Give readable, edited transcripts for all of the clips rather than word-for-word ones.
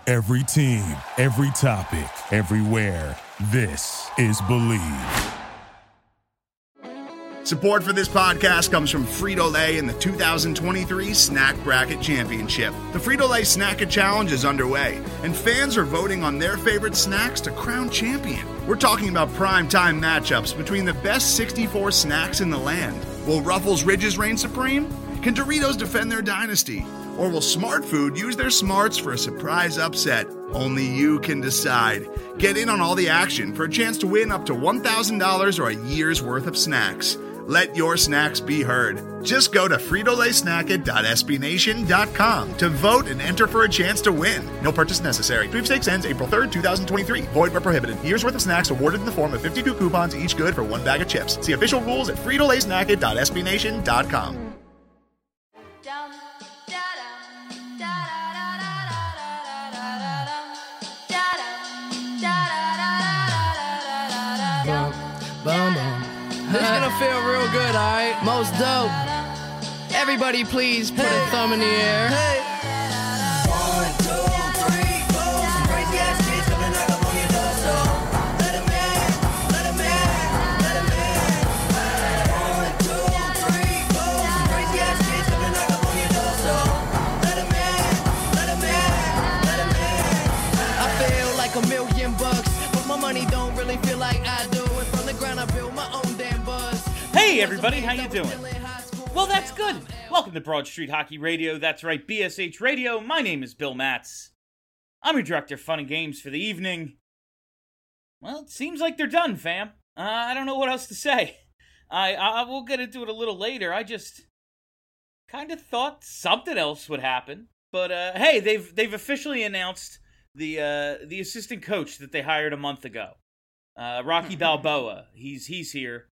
Every team, every topic, everywhere. This is Believe. Support for this podcast comes from Frito-Lay and the 2023 Snack Bracket Championship. The Frito-Lay Snack-It Challenge is underway, and fans are voting on their favorite snacks to crown champion. We're talking about prime-time matchups between the best 64 snacks in the land. Will Ruffles Ridges reign supreme? Can Doritos defend their dynasty? Or will Smart Food use their smarts for a surprise upset? Only you can decide. Get in on all the action for a chance to win up to $1,000 or a year's worth of snacks. Let your snacks be heard. Just go to fritolaysnacket.sbnation.com to vote and enter for a chance to win. No purchase necessary. Sweepstakes ends April 3rd, 2023. Void where prohibited. Year's worth of snacks awarded in the form of 52 coupons, each good for one bag of chips. See official rules at fritolaysnacket.sbnation.com. This is gonna feel real good, alright? Most dope. Everybody please put a thumb in the air. Hey. 1, 2, 3, 4. Some crazy ass kids coming knock up on your door, so let 'em in, let 'em in, let 'em in. 1, 2, 3, 4. Some crazy ass kids coming knock up on your door, so let 'em in, let 'em in, let 'em in. I feel like $1,000,000, but my money don't really feel like I do. And from the ground I build my own damn buzz. Hey everybody, how you doing? Well, that's good. Welcome to Broad Street Hockey Radio. That's right, BSH Radio. My name is Bill Matz. I'm your director of fun and games for the evening. Well, it seems like they're done, fam. I don't know what else to say. I will get into it a little later. I just kind of thought something else would happen. But hey, they've officially announced the assistant coach that they hired a month ago. Rocky Balboa. He's here.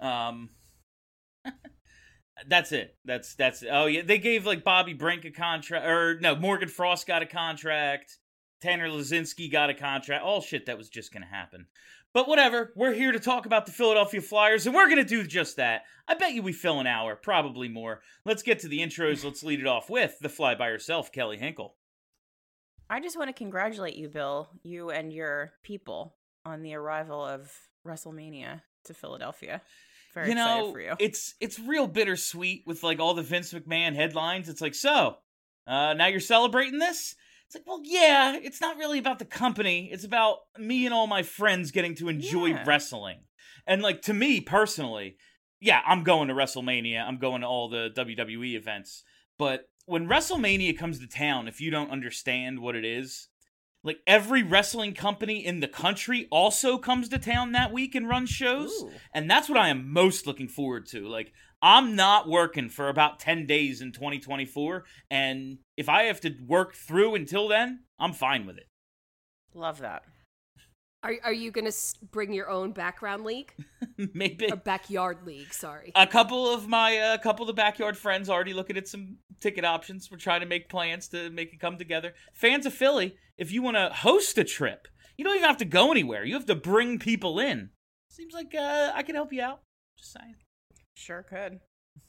That's it. That's oh yeah, they gave like Bobby Brink a contract, or no, Morgan Frost got a contract, Tanner Laczynski got a contract, all shit that was just gonna happen. But whatever, we're here to talk about the Philadelphia Flyers, and we're gonna do just that. I bet you we fill an hour, probably more. Let's get to the intros. Let's lead it off with the fly by herself, Kelly Hinkle. I just want to congratulate you, Bill, you and your people, on the arrival of WrestleMania to Philadelphia. Very excited for you. It's real bittersweet with like all the Vince McMahon headlines. It's like, so, now you're celebrating this? It's like, well, yeah, it's not really about the company. It's about me and all my friends getting to enjoy wrestling. And like, to me personally, yeah, I'm going to WrestleMania. I'm going to all the WWE events. But when WrestleMania comes to town, if you don't understand what it is, like every wrestling company in the country also comes to town that week and runs shows. Ooh. And that's what I am most looking forward to. Like, I'm not working for about 10 days in 2024. And if I have to work through until then, I'm fine with it. Love that. Are you going to bring your own background league? Maybe. Or backyard league, sorry. A couple of the backyard friends already looking at some ticket options. We're trying to make plans to make it come together. Fans of Philly, if you want to host a trip, you don't even have to go anywhere. You have to bring people in. Seems like I can help you out. Just saying. Sure could.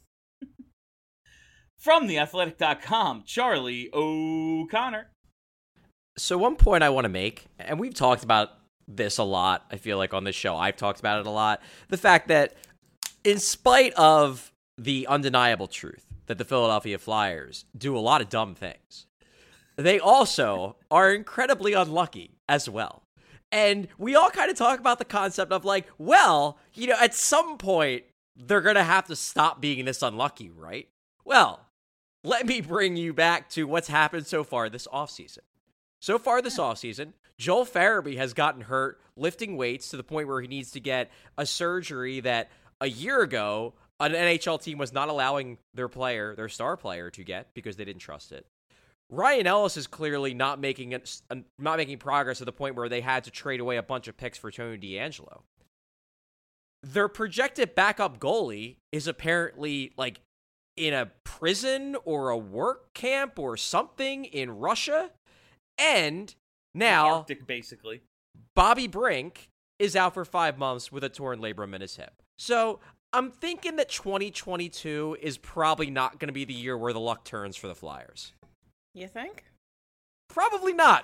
From theathletic.com, Charlie O'Connor. So one point I want to make, and we've talked about this a lot, I feel like on this show, I've talked about it a lot, the fact that in spite of the undeniable truth that the Philadelphia Flyers do a lot of dumb things, they also are incredibly unlucky as well. And we all kind of talk about the concept of like, well, you know, at some point, they're going to have to stop being this unlucky, right? Well, let me bring you back to what's happened so far this offseason. So far this offseason, Joel Farabee has gotten hurt lifting weights to the point where he needs to get a surgery that a year ago an NHL team was not allowing their star player, to get because they didn't trust it. Ryan Ellis is clearly not making progress to the point where they had to trade away a bunch of picks for Tony DeAngelo. Their projected backup goalie is apparently like in a prison or a work camp or something in Russia. And now, Arctic, basically, Bobby Brink is out for 5 months with a torn labrum in his hip. So I'm thinking that 2022 is probably not going to be the year where the luck turns for the Flyers. You think? Probably not.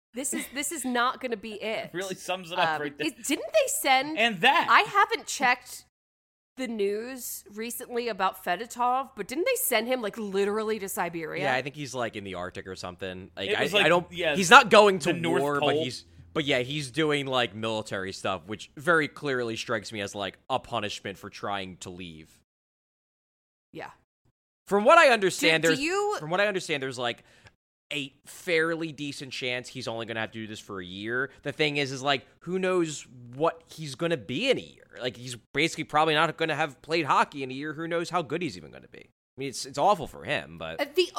This is not going to be it. Really sums it up right there. Didn't they send? And that I haven't checked the news recently about Fedotov, but didn't they send him like literally to Siberia? Yeah, I think he's like in the Arctic or something. Like, It was I like, don't. yeah, he's not going to the North war, Pole. but he's doing like military stuff, which very clearly strikes me as like a punishment for trying to leave. Yeah. From what I understand, Do there's you- from what I understand, there's like a fairly decent chance he's only going to have to do this for a year. The thing is like, who knows what he's going to be in a year? Like, he's basically probably not going to have played hockey in a year. Who knows how good he's even going to be? I mean, it's awful for him, but The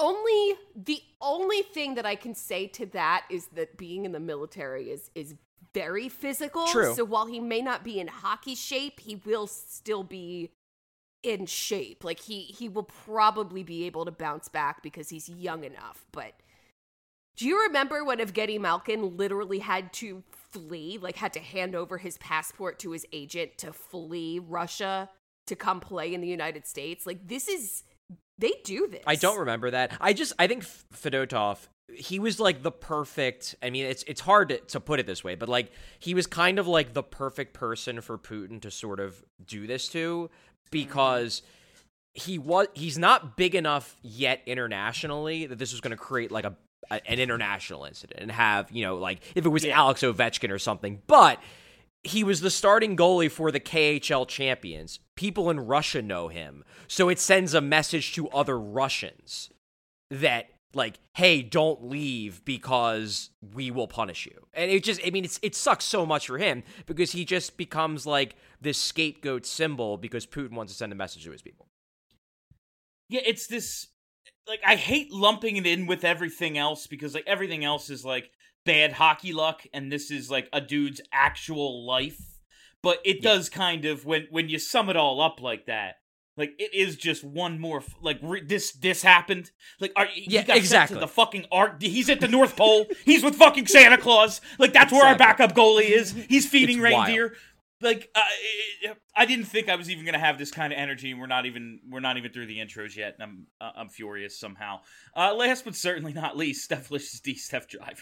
only thing that I can say to that is that being in the military is very physical. True. So while he may not be in hockey shape, he will still be in shape. Like he will probably be able to bounce back because he's young enough. But do you remember when Evgeny Malkin literally had to flee, like had to hand over his passport to his agent to flee Russia to come play in the United States? Like, they do this. I don't remember that. I think Fedotov, he was like the perfect, I mean, it's hard to put it this way, but like, he was kind of like the perfect person for Putin to sort of do this to, because he's not big enough yet internationally that this was going to create like an international incident and have, you know, like if it was Alex Ovechkin or something, but he was the starting goalie for the KHL champions. People in Russia know him. So it sends a message to other Russians that, like, hey, don't leave because we will punish you. And it sucks so much for him because he just becomes like this scapegoat symbol because Putin wants to send a message to his people. Yeah, it's this, like, I hate lumping it in with everything else because, like, everything else is, like, bad hockey luck, and this is, like, a dude's actual life. But it does kind of, when you sum it all up like that, like, it is just one more, this happened. Like, he got sent to the fucking he's at the North Pole. He's with fucking Santa Claus. Like, that's where our backup goalie is. He's feeding It's reindeer. wild. Like, I didn't think I was even gonna have this kind of energy, and we're not even through the intros yet, and I'm furious somehow. Last but certainly not least, Steph Licious D, Steph Driver.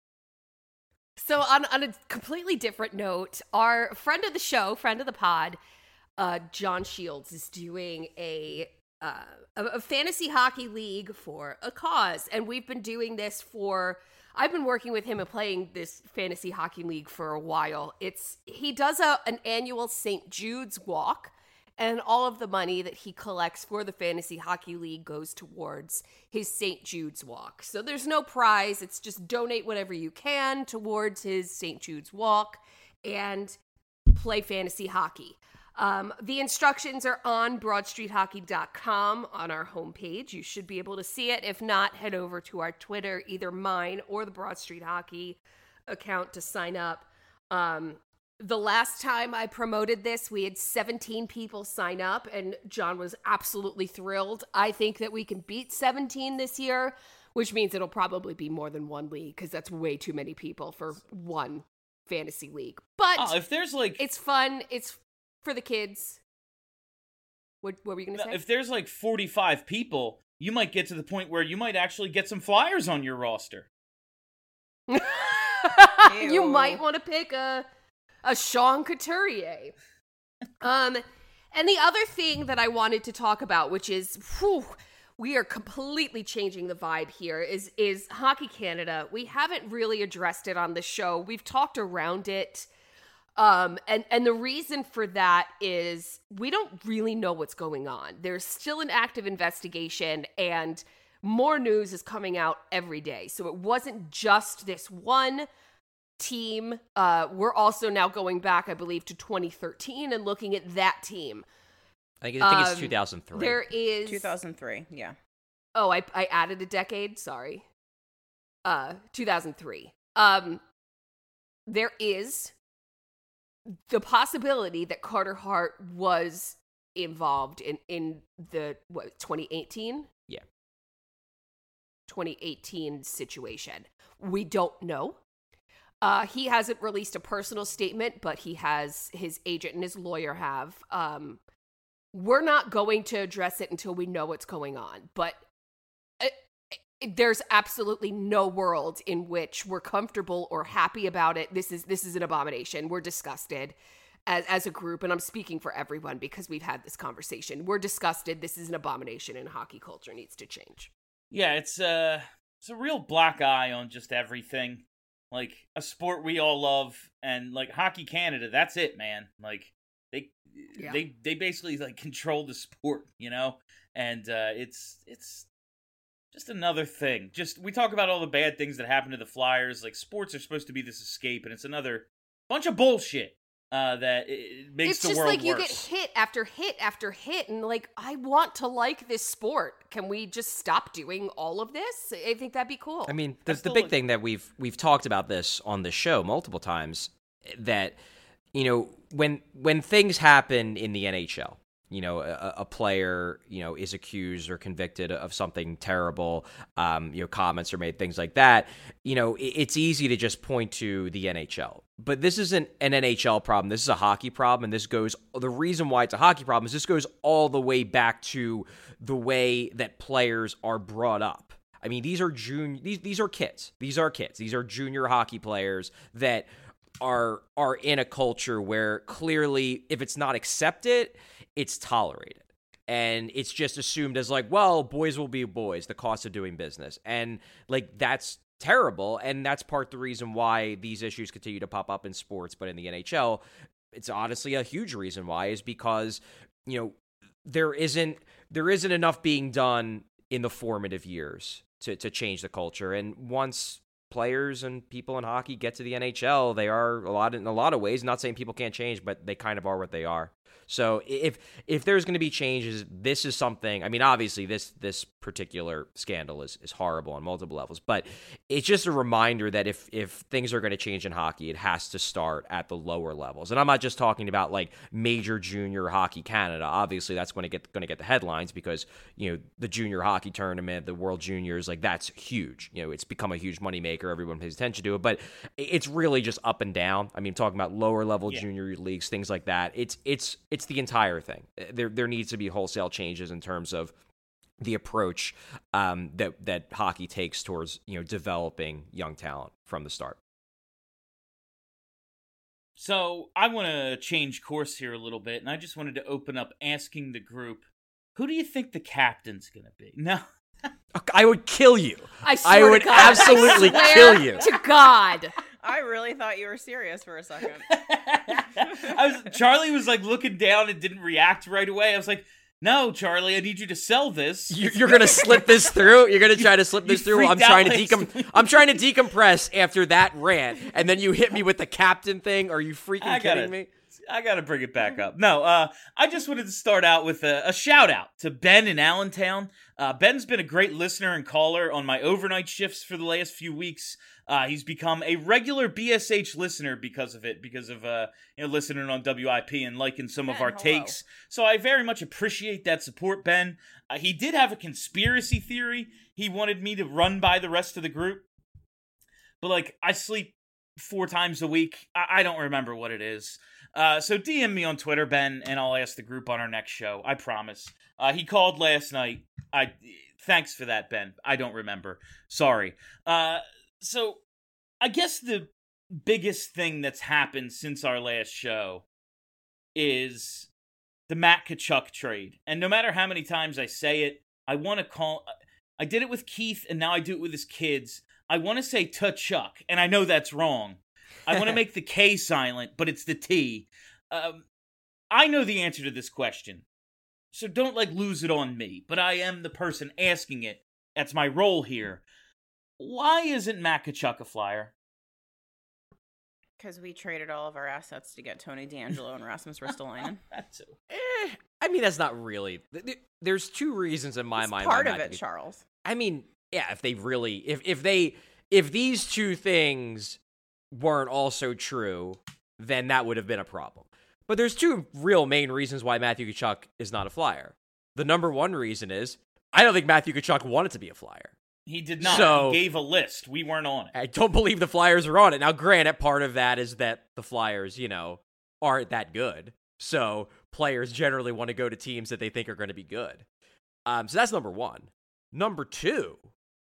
So on a completely different note, our friend of the show, friend of the pod, John Shields is doing a fantasy hockey league for a cause, and we've been doing this I've been working with him and playing this fantasy hockey league for a while. He does an annual St. Jude's walk, and all of the money that he collects for the fantasy hockey league goes towards his St. Jude's walk. So there's no prize. It's just donate whatever you can towards his St. Jude's walk and play fantasy hockey. The instructions are on BroadStreetHockey.com on our homepage. You should be able to see it. If not, head over to our Twitter, either mine or the Broad Street Hockey account to sign up. The last time I promoted this, we had 17 people sign up, and John was absolutely thrilled. I think that we can beat 17 this year, which means it'll probably be more than one league, because that's way too many people for one fantasy league. But if there's like, it's fun. It's for the kids. What were you going to say? If there's like 45 people, you might get to the point where you might actually get some flyers on your roster. You might want to pick a Sean Couturier. And the other thing that I wanted to talk about, which is, we are completely changing the vibe here, is Hockey Canada. We haven't really addressed it on the show. We've talked around it. And the reason for that is we don't really know what's going on. There's still an active investigation, and more news is coming out every day. So it wasn't just this one team. We're also now going back, I believe, to 2013 and looking at that team. I think it's 2003. There is 2003, yeah. Oh, I added a decade. Sorry. 2003. There is the possibility that Carter Hart was involved in the 2018? Yeah. 2018 situation. We don't know. He hasn't released a personal statement, but his agent and his lawyer have. We're not going to address it until we know what's going on. But there's absolutely no world in which we're comfortable or happy about it. This is an abomination. We're disgusted as a group, and I'm speaking for everyone because we've had this conversation. We're disgusted. This is an abomination, and hockey culture needs to change. Yeah, it's a real black eye on just everything. Like, a sport we all love, and like Hockey Canada, that's it, man. Like, they basically like control the sport, you know? And it's just another thing. Just, we talk about all the bad things that happen to the Flyers. Like, sports are supposed to be this escape, and it's another bunch of bullshit that it makes the world worse. It's just like you get hit after hit after hit, and like, I want to like this sport. Can we just stop doing all of this? I think that'd be cool. I mean, the big thing that we've talked about this on the show multiple times, that, you know, when things happen in the NHL, you know, a player, you know, is accused or convicted of something terrible, you know, comments are made, things like that, you know, it's easy to just point to the NHL. But this isn't an NHL problem. This is a hockey problem, and the reason why it's a hockey problem is this goes all the way back to the way that players are brought up. I mean, these are kids. These are kids. These are junior hockey players that are in a culture where clearly, if it's not accepted, it's tolerated. And it's just assumed as like, well, boys will be boys, the cost of doing business. And like, that's terrible. And that's part of the reason why these issues continue to pop up in sports. But in the NHL, it's honestly a huge reason why, is because, you know, there isn't enough being done in the formative years to change the culture. And once players and people in hockey get to the NHL, they are in a lot of ways, not saying people can't change, but they kind of are what they are. So if there's going to be changes, this is something. I mean, obviously this particular scandal is horrible on multiple levels, but it's just a reminder that if things are going to change in hockey, it has to start at the lower levels. And I'm not just talking about like major junior hockey Canada. Obviously, that's going to get the headlines because, you know, the junior hockey tournament, the World Juniors, like that's huge. You know, it's become a huge moneymaker. Everyone pays attention to it, but it's really just up and down. I mean, talking about lower level junior leagues, things like that. It's the entire thing. There needs to be wholesale changes in terms of the approach that hockey takes towards, you know, developing young talent from the start. So I want to change course here a little bit, and I just wanted to open up asking the group, who do you think the captain's going to be? No. I would kill you. I would absolutely kill you. To God. I really thought you were serious for a second. Charlie was like looking down and didn't react right away. I was like, no, Charlie, I need you to sell this. You're going to slip this through? You're going to try to slip this through? I'm trying to decompress after that rant, and then you hit me with the captain thing? Are you freaking kidding me? I got to bring it back up. No, I just wanted to start out with a shout out to Ben in Allentown. Ben's been a great listener and caller on my overnight shifts for the last few weeks. He's become a regular BSH listener because of listening on WIP and liking some of our takes. So I very much appreciate that support, Ben. He did have a conspiracy theory he wanted me to run by the rest of the group. But like, I sleep 4 times a week. I don't remember what it is. So DM me on Twitter, Ben, and I'll ask the group on our next show. I promise. He called last night. Thanks for that, Ben. I don't remember. Sorry. So I guess the biggest thing that's happened since our last show is the Matt Tkachuk trade. And no matter how many times I say it, I did it with Keith, and now I do it with his kids. I want to say Tkachuk, and I know that's wrong. I want to make the K silent, but it's the T. I know the answer to this question, so don't lose it on me. But I am the person asking it. That's my role here. Why isn't Matt Tkachuk a Flyer? Because we traded all of our assets to get Tony DeAngelo and Rasmus Ristolainen. That's so. I mean, that's not really. There's 2 reasons in my mind. Part of it, Charles. I mean, yeah. If these 2 things weren't also true, then that would have been a problem. But there's 2 real main reasons why Matthew Tkachuk is not a Flyer. The number 1 reason is I don't think Matthew Tkachuk wanted to be a Flyer. He did not. So, he gave a list. We weren't on it. I don't believe the Flyers are on it. Now, granted, part of that is that the Flyers, aren't that good. So players generally want to go to teams that they think are going to be good. So that's number 1. Number 2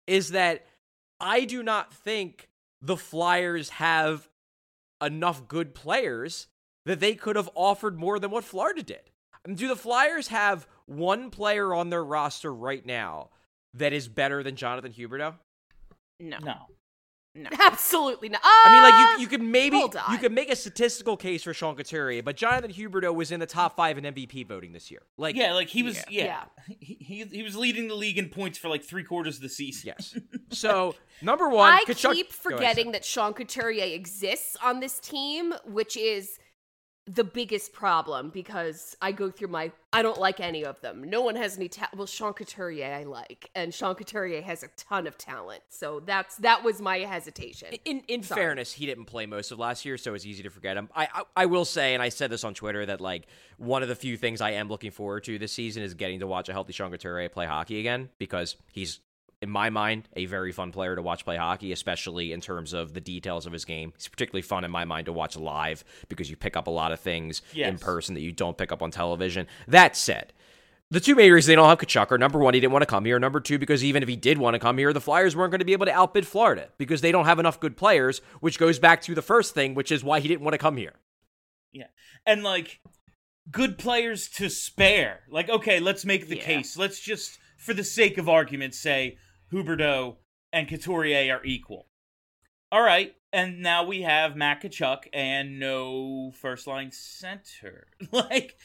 is that I do not think the Flyers have enough good players that they could have offered more than what Florida did. I mean, do the Flyers have one player on their roster right now that is better than Jonathan Huberdeau? No. Absolutely not. I mean, like, you hold could make a statistical case for Sean Couturier, but Jonathan Huberdeau was in the top 5 in MVP voting this year. Like, yeah, like he was, he was leading the league in points for like 3/4 of the season. Yes. So, number one, I Kachuk- keep Go ahead, forgetting Sam. that Sean Couturier exists on this team, which is the biggest problem because I go through I don't like any of them. No one has any well, Sean Couturier I like, and Sean Couturier has a ton of talent. So that was my hesitation. In fairness, he didn't play most of last year, so it's easy to forget him. I will say, and I said this on Twitter, that like one of the few things I am looking forward to this season is getting to watch a healthy Sean Couturier play hockey again, because he's, in my mind, a very fun player to watch play hockey, especially in terms of the details of his game. He's particularly fun in my mind to watch live because you pick up a lot of things in person that you don't pick up on television. That said, the two main reasons they don't have Tkachuk are, number one, he didn't want to come here. Number two, because even if he did want to come here, the Flyers weren't going to be able to outbid Florida because they don't have enough good players, which goes back to the first thing, which is why he didn't want to come here. Yeah. And like, good players to spare. Like, okay, let's make the case. Let's just, for the sake of argument, say Huberdeau and Couturier are equal. All right, and now we have Matt Tkachuk and no first-line center. like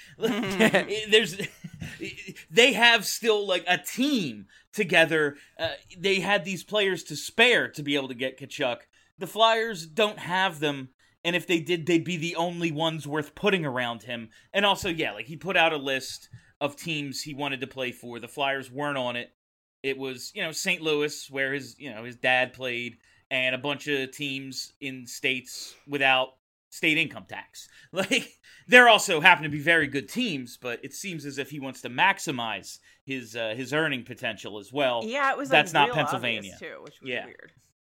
they have still like a team together. They had these players to spare to be able to get Tkachuk. The Flyers don't have them, and if they did, they'd be the only ones worth putting around him. And also, like he put out a list of teams he wanted to play for. The Flyers weren't on it. It was, St. Louis, where his dad played, and a bunch of teams in states without state income tax. Like, there also happen to be very good teams, but it seems as if he wants to maximize his earning potential as well. Yeah, it was that's like not real Pennsylvania obvious too, which was weird.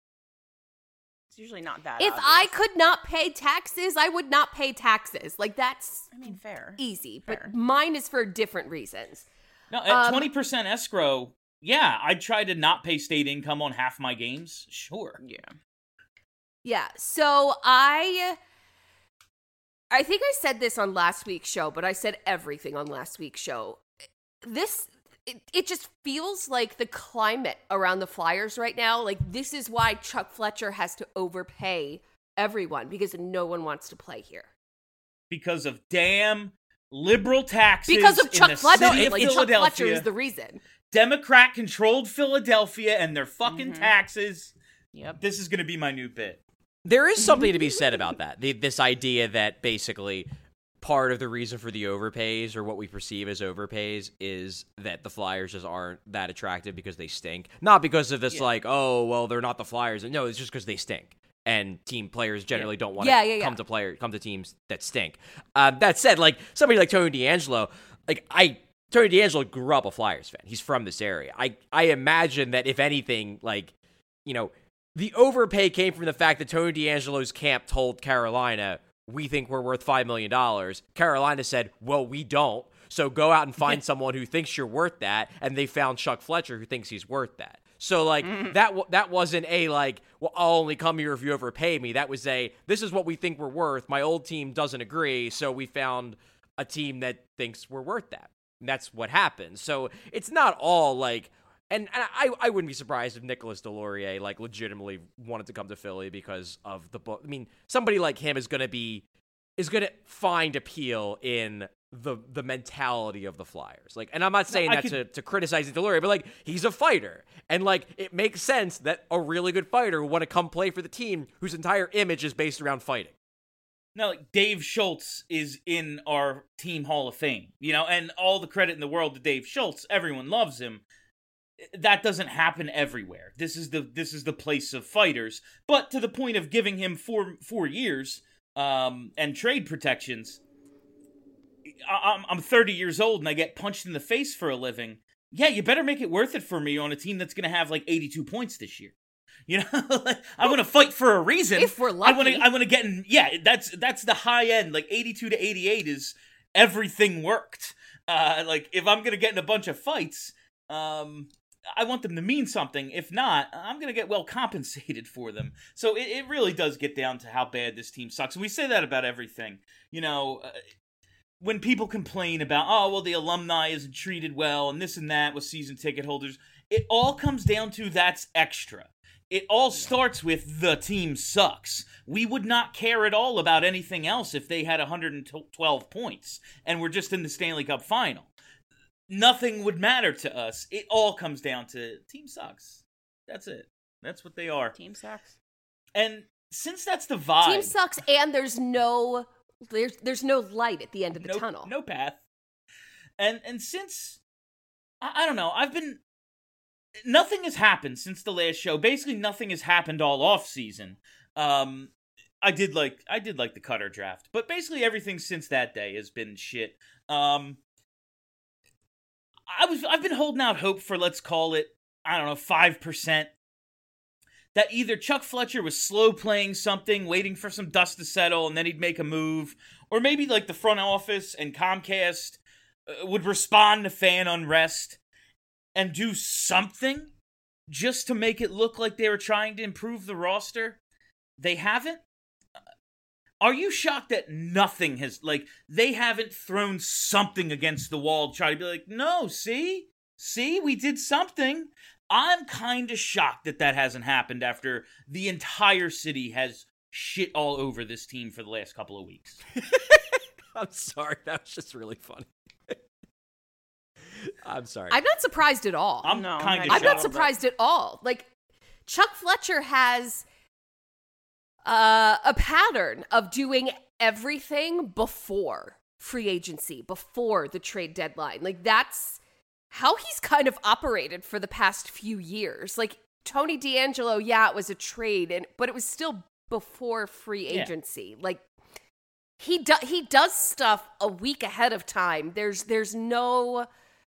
It's usually not that If obvious. I could not pay taxes, I would not pay taxes. Like, that's fair. Easy, Fair. but mine is for different reasons. No, at 20% escrow, I'd try to not pay state income on half my games. Sure. Yeah, so I think I said this on last week's show, but I said everything on last week's show. It just feels like the climate around the Flyers right now, like this is why Chuck Fletcher has to overpay everyone, because no one wants to play here. Because of damn liberal taxes. Because of Chuck Fletcher. City of Like, Chuck Philadelphia. Fletcher is the reason. Democrat-controlled Philadelphia and their fucking taxes. Yep. This is going to be my new bit. There is something to be said about that. This idea that basically part of the reason for the overpays, or what we perceive as overpays, is that the Flyers just aren't that attractive because they stink. Not because of this like, oh, well, they're not the Flyers. No, it's just because they stink. And team players generally don't want to come to teams that stink. That said, like somebody like Tony DeAngelo, Tony DeAngelo grew up a Flyers fan. He's from this area. I imagine that if anything, the overpay came from the fact that Tony DeAngelo's camp told Carolina, we think we're worth $5 million. Carolina said, well, we don't. So go out and find someone who thinks you're worth that. And they found Chuck Fletcher who thinks he's worth that. So, that wasn't a, well, I'll only come here if you overpay me. That was this is what we think we're worth. My old team doesn't agree, so we found a team that thinks we're worth that. And that's what happened. So, it's not all, and I wouldn't be surprised if Nicolas Deslauriers, legitimately wanted to come to Philly because of the book. I mean, somebody like him is going to find appeal in the mentality of the Flyers. And I'm not saying to criticize Deslauriers, but he's a fighter. And it makes sense that a really good fighter would want to come play for the team whose entire image is based around fighting. No, Dave Schultz is in our team Hall of Fame, and all the credit in the world to Dave Schultz. Everyone loves him. That doesn't happen everywhere. This is the place of fighters. But to the point of giving him 4 years and trade protections, I'm 30 years old and I get punched in the face for a living. Yeah, you better make it worth it for me on a team that's going to have 82 points this year. I want to fight for a reason. If we're lucky. I want to get in. Yeah, that's the high end. 82 to 88 is everything worked. If I'm going to get in a bunch of fights, I want them to mean something. If not, I'm going to get well compensated for them. So it really does get down to how bad this team sucks. And we say that about everything. You know, when people complain about, oh, well, the alumni isn't treated well and this and that with season ticket holders, it all comes down to that's extra. It all starts with the team sucks. We would not care at all about anything else if they had 112 points and we're just in the Stanley Cup final. Nothing would matter to us. It all comes down to team sucks. That's it. That's what they are. Team sucks. And since that's the vibe, Team sucks, and there's no light at the end of the tunnel. No path. And since I don't know, nothing has happened since the last show. Basically, nothing has happened all off season. I did like the Cutter draft, but basically everything since that day has been shit. I've been holding out hope for, let's call it, I don't know, 5%. That either Chuck Fletcher was slow playing something, waiting for some dust to settle, and then he'd make a move, or maybe like the front office and Comcast would respond to fan unrest and do something just to make it look like they were trying to improve the roster. They haven't? Are you shocked that nothing has, like, they haven't thrown something against the wall to try to be like, no, see, we did something. I'm kind of shocked that hasn't happened after the entire city has shit all over this team for the last couple of weeks. I'm sorry, that was just really funny. I'm sorry. I'm not surprised at all. I'm not surprised at all. Like, Chuck Fletcher has a pattern of doing everything before free agency, before the trade deadline. Like, that's how he's kind of operated for the past few years. Like, Tony DeAngelo, yeah, it was a trade, but it was still before free agency. Like, he does stuff a week ahead of time. There's no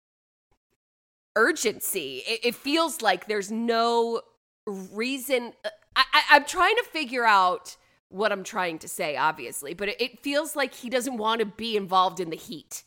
urgency. It feels like there's no reason. I'm trying to figure out what I'm trying to say, obviously, but it feels like he doesn't want to be involved in the heat.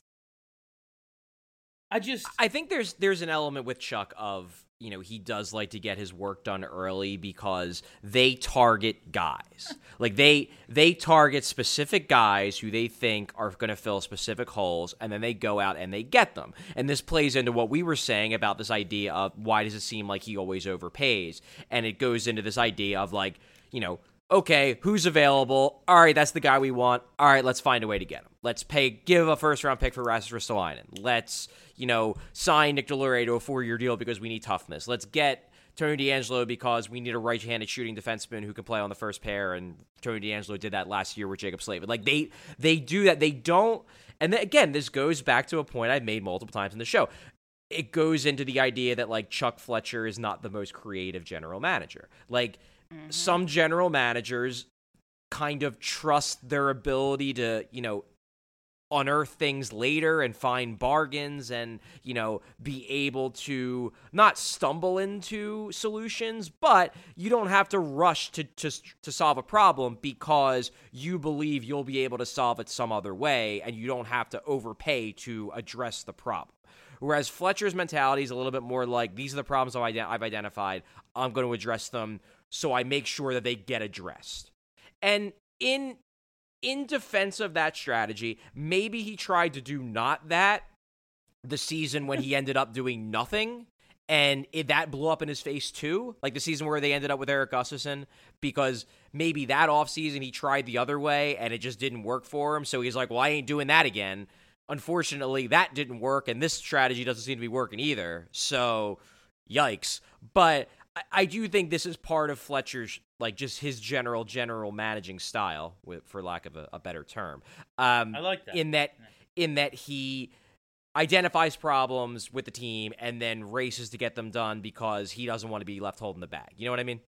I think there's an element with Chuck of, you know, he does like to get his work done early because they target guys. Like, they target specific guys who they think are going to fill specific holes, and then they go out and they get them. And this plays into what we were saying about this idea of why does it seem like he always overpays? And it goes into this idea of, like, you know, okay, who's available? All right, that's the guy we want. All right, let's find a way to get him. Let's give a first-round pick for Rasmus Ristolainen. Let's, you know, sign Nick Deslauriers to a 4-year deal because we need toughness. Let's get Tony DeAngelo because we need a right-handed shooting defenseman who can play on the first pair, and Tony DeAngelo did that last year with Jacob Slavin. Like, they do that. They don't, and then, again, this goes back to a point I've made multiple times in the show. It goes into the idea that, like, Chuck Fletcher is not the most creative general manager. Like, some general managers kind of trust their ability to, you know, unearth things later and find bargains and, you know, be able to not stumble into solutions, but you don't have to rush to solve a problem because you believe you'll be able to solve it some other way and you don't have to overpay to address the problem. Whereas Fletcher's mentality is a little bit more like, these are the problems I've identified, I'm going to address them, so I make sure that they get addressed. And in defense of that strategy, maybe he tried to do not that the season when he ended up doing nothing, and that blew up in his face too, like the season where they ended up with Erik Gustafsson, because maybe that offseason he tried the other way and it just didn't work for him, so he's like, well, I ain't doing that again. Unfortunately, that didn't work, and this strategy doesn't seem to be working either, so yikes. But I do think this is part of Fletcher's, like, just his general managing style, for lack of a better term. I like that. In that he identifies problems with the team and then races to get them done because he doesn't want to be left holding the bag. You know what I mean?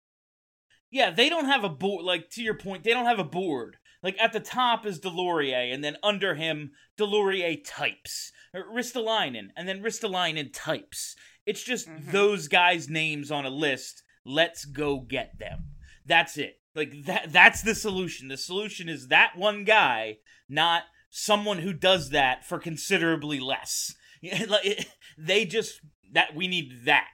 Yeah, they don't have a board. Like, to your point, they don't have a board. Like, at the top is Deslauriers, and then under him, Deslauriers types. Ristolainen, and then Ristolainen types. It's just those guys' names on a list. Let's go get them. That's it. Like, that's the solution. The solution is that one guy, not someone who does that for considerably less. That we need that.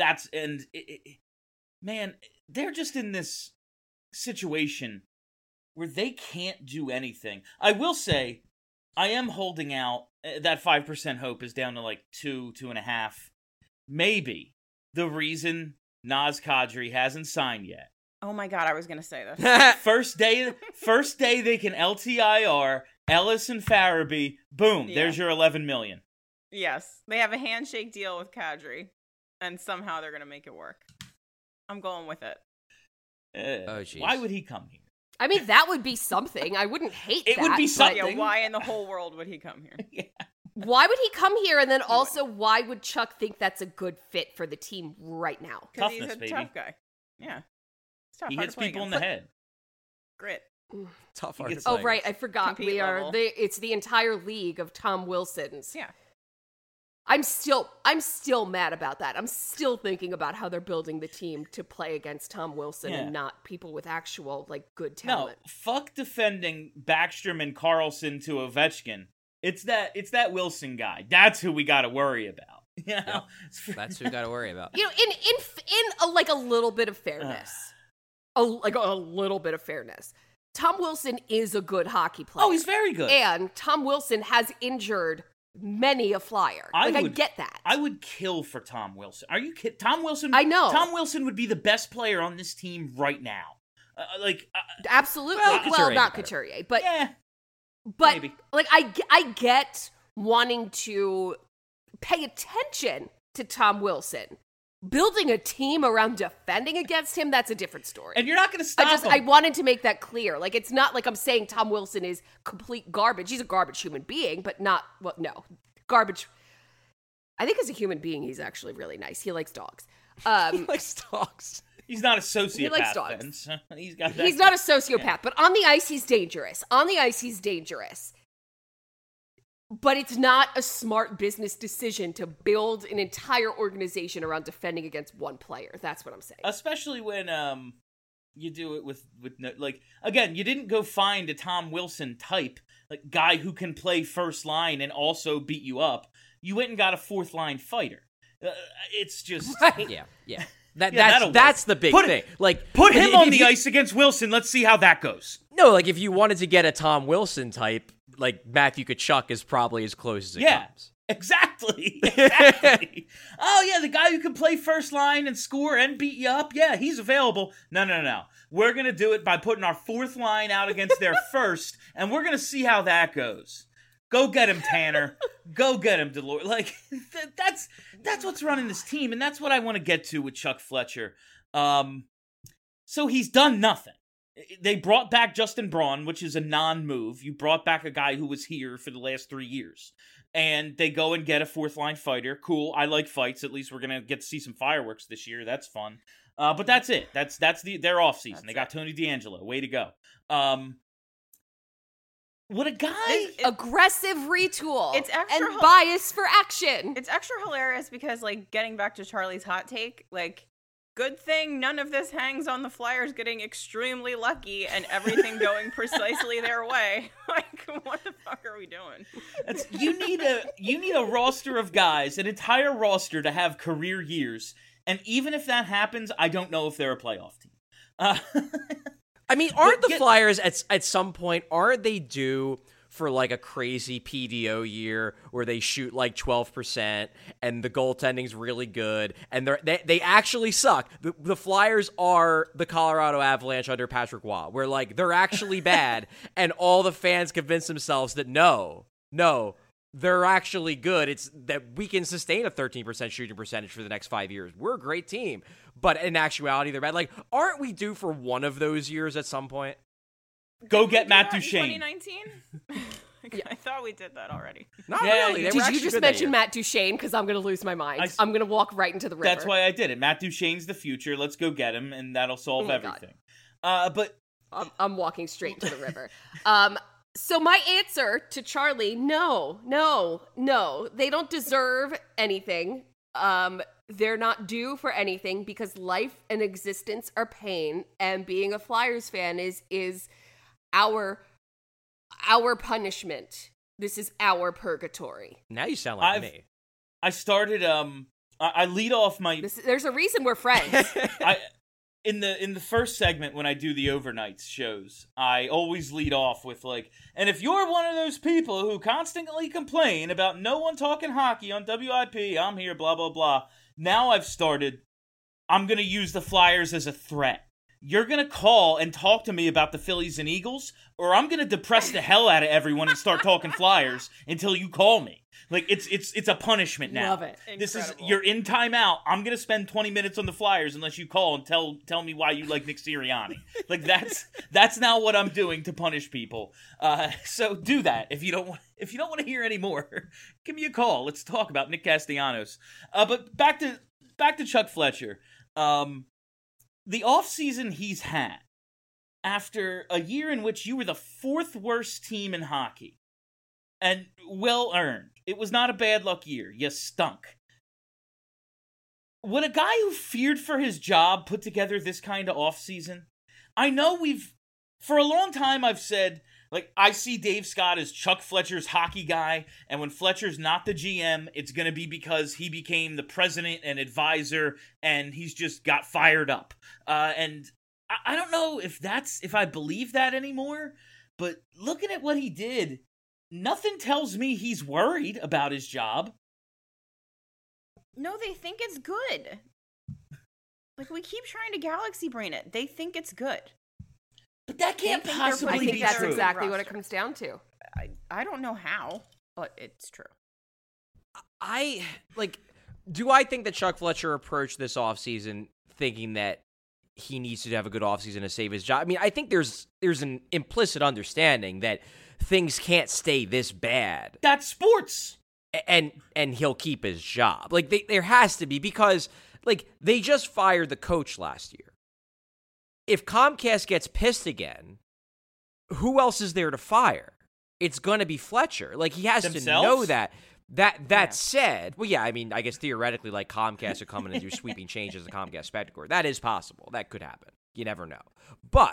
Man, they're just in this situation where they can't do anything. I will say, I am holding out. That 5% hope is down to like 2.5. Maybe the reason Naz Kadri hasn't signed yet. Oh my god, I was gonna say this. First day they can LTIR Ellis and Farabee. Boom, there's your $11 million. Yes, they have a handshake deal with Kadri, and somehow they're gonna make it work. I'm going with it. Why would he come here? I mean, that would be something. I wouldn't hate that. It would be something. Yeah, why in the whole world would he come here? Yeah. Why would he come here? And then also, why would Chuck think that's a good fit for the team right now? Because he's Toughness, a baby. tough guy. Yeah. It's tough, He hard hits to play people in against. the head. Grit. Tough hard to gets- play. Oh, right. I forgot. Compete level. It's the entire league of Tom Wilsons. Yeah. I'm still mad about that. I'm still thinking about how they're building the team to play against Tom Wilson and not people with actual, like, good talent. No, fuck defending Backstrom and Carlson to Ovechkin. It's that Wilson guy. That's who we got to worry about. You know? That's who we got to worry about. You know, in a little bit of fairness, a little bit of fairness, Tom Wilson is a good hockey player. Oh, he's very good. And Tom Wilson has injured many a Flyer. I get that. I would kill for Tom Wilson. Are you kidding? Tom Wilson. I know. Tom Wilson would be the best player on this team right now. Absolutely. Well, Not better. Couturier, but Yeah. but maybe. like I get wanting to pay attention to Tom Wilson. Building a team around defending against him, that's a different story. And you're not going to stop him. I wanted to make that clear. Like, it's not like I'm saying Tom Wilson is complete garbage. He's a garbage human being, but not, well, no. Garbage. I think as a human being, he's actually really nice. He likes dogs. He likes dogs. He's not a sociopath. He likes dogs. then, so he's got that. He's not a sociopath, but on the ice, he's dangerous. But it's not a smart business decision to build an entire organization around defending against one player. That's what I'm saying. Especially when you do it with no, like, again, you didn't go find a Tom Wilson type, like, guy who can play first line and also beat you up. You went and got a fourth line fighter. It's just Yeah. that'll That's work. the big Put thing. Like, Put him if on the you- ice against Wilson. Let's see how that goes. No, like if you wanted to get a Tom Wilson type, like Matthew Tkachuk is probably as close as it comes. Exactly. Oh, yeah, the guy who can play first line and score and beat you up. Yeah, he's available. No. We're going to do it by putting our fourth line out against their first, and we're going to see how that goes. Go get him, Tanner. Go get him, Delort. Like, that's what's running this team, and that's what I want to get to with Chuck Fletcher. So he's done nothing. They brought back Justin Braun, which is a non-move. You brought back a guy who was here for the last 3 years. And they go and get a fourth-line fighter. Cool, I like fights. At least we're going to get to see some fireworks this year. That's fun. But that's it. That's their off-season. They got Tony DeAngelo. Way to go. What a guy! Aggressive retool. It's extra and bias for action. It's extra hilarious because, like, getting back to Charlie's hot take, like, good thing none of this hangs on the Flyers getting extremely lucky and everything going precisely their way. Like, what the fuck are we doing? You need a roster of guys, an entire roster to have career years, and even if that happens, I don't know if they're a playoff team. I mean, aren't the Flyers at some point, aren't they due for like a crazy PDO year where they shoot like 12% and the goaltending's really good and they actually suck? The Flyers are the Colorado Avalanche under Patrick Waugh, where like they're actually bad and all the fans convince themselves that no, they're actually good. It's that we can sustain a 13% shooting percentage for the next 5 years. We're a great team. But in actuality, they're bad. Like, aren't we due for one of those years at some point? Go get Matt In Duchene. 2019? I thought we did that already. Not Yeah, really. They were Did you actually just good that mention year. Matt Duchene? Because I'm going to lose my mind. I'm going to walk right into the river. That's why I did it. Matt Duchene's the future. Let's go get him, and that'll solve my God. everything. But I'm walking straight to the river. So my answer to Charlie, no. They don't deserve anything. They're not due for anything because life and existence are pain, and being a Flyers fan is our punishment. This is our purgatory. Now you sound like me. I started I lead off my There's a reason we're friends. in the first segment when I do the overnights shows, I always lead off with like, and if you're one of those people who constantly complain about no one talking hockey on WIP, I'm here, blah blah blah. Now I've started, I'm gonna use the Flyers as a threat. You're gonna call and talk to me about the Phillies and Eagles, or I'm gonna depress the hell out of everyone and start talking Flyers until you call me. Like it's a punishment now. Love it. This is Incredible. you're in timeout. I'm gonna spend 20 minutes on the Flyers unless you call and tell me why you like Nick Sirianni. Like that's now what I'm doing to punish people. So do that if you don't want to hear any more. Give me a call. Let's talk about Nick Castellanos. But back to Chuck Fletcher. The offseason he's had after a year in which you were the 4th worst team in hockey. And well earned. It was not a bad luck year. You stunk. Would a guy who feared for his job put together this kind of offseason? I know for a long time I've said, like, I see Dave Scott as Chuck Fletcher's hockey guy, and when Fletcher's not the GM, it's going to be because he became the president and advisor, and he's just got fired up. And I don't know if I believe that anymore, but looking at what he did, nothing tells me he's worried about his job. No, they think it's good. Like, we keep trying to galaxy brain it. They think it's good. But that can't They think they're I possibly think be that's true. exactly what it Roster. comes down to. I don't know how, but it's true. Do I think that Chuck Fletcher approached this offseason thinking that he needs to have a good offseason to save his job? I mean, I think there's an implicit understanding that things can't stay this bad. That's sports. And he'll keep his job. Like, there has to be, because, like, they just fired the coach last year. If Comcast gets pissed again, who else is there to fire? It's going to be Fletcher. Like, he has Themselves? to know that. That said, well, yeah, I mean, I guess theoretically, like, Comcast would come in and do sweeping changes to Comcast Spectacor. That is possible. That could happen. You never know. But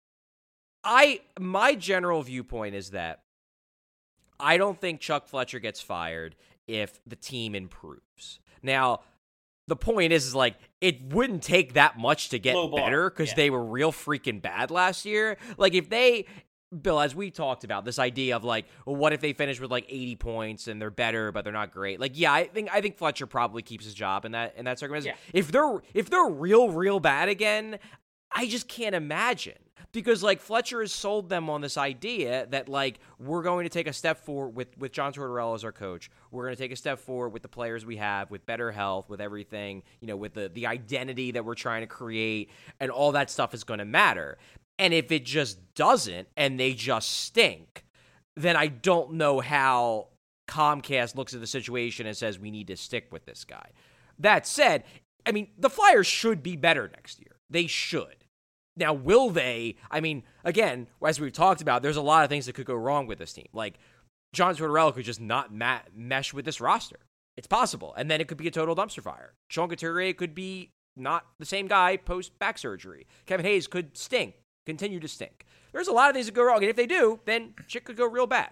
my general viewpoint is that I don't think Chuck Fletcher gets fired if the team improves. Now, the point is like, it wouldn't take that much to get Low bar. better because Yeah. they were real freaking bad last year. Like, if they, Bill, as we talked about, this idea of like, well, what if they finish with like 80 points and they're better but they're not great? Like, yeah, I think Fletcher probably keeps his job in that circumstance. Yeah. If they're real bad again, I just can't imagine. Because, like, Fletcher has sold them on this idea that, like, we're going to take a step forward with John Tortorella as our coach. We're going to take a step forward with the players we have, with better health, with everything, you know, with the identity that we're trying to create, and all that stuff is going to matter. And if it just doesn't, and they just stink, then I don't know how Comcast looks at the situation and says we need to stick with this guy. That said, I mean, the Flyers should be better next year. They should. Now, will they? I mean, again, as we've talked about, there's a lot of things that could go wrong with this team. Like, John Tortorella could just not mesh with this roster. It's possible. And then it could be a total dumpster fire. Sean Couturier could be not the same guy post-back surgery. Kevin Hayes could continue to stink. There's a lot of things that go wrong. And if they do, then shit could go real bad.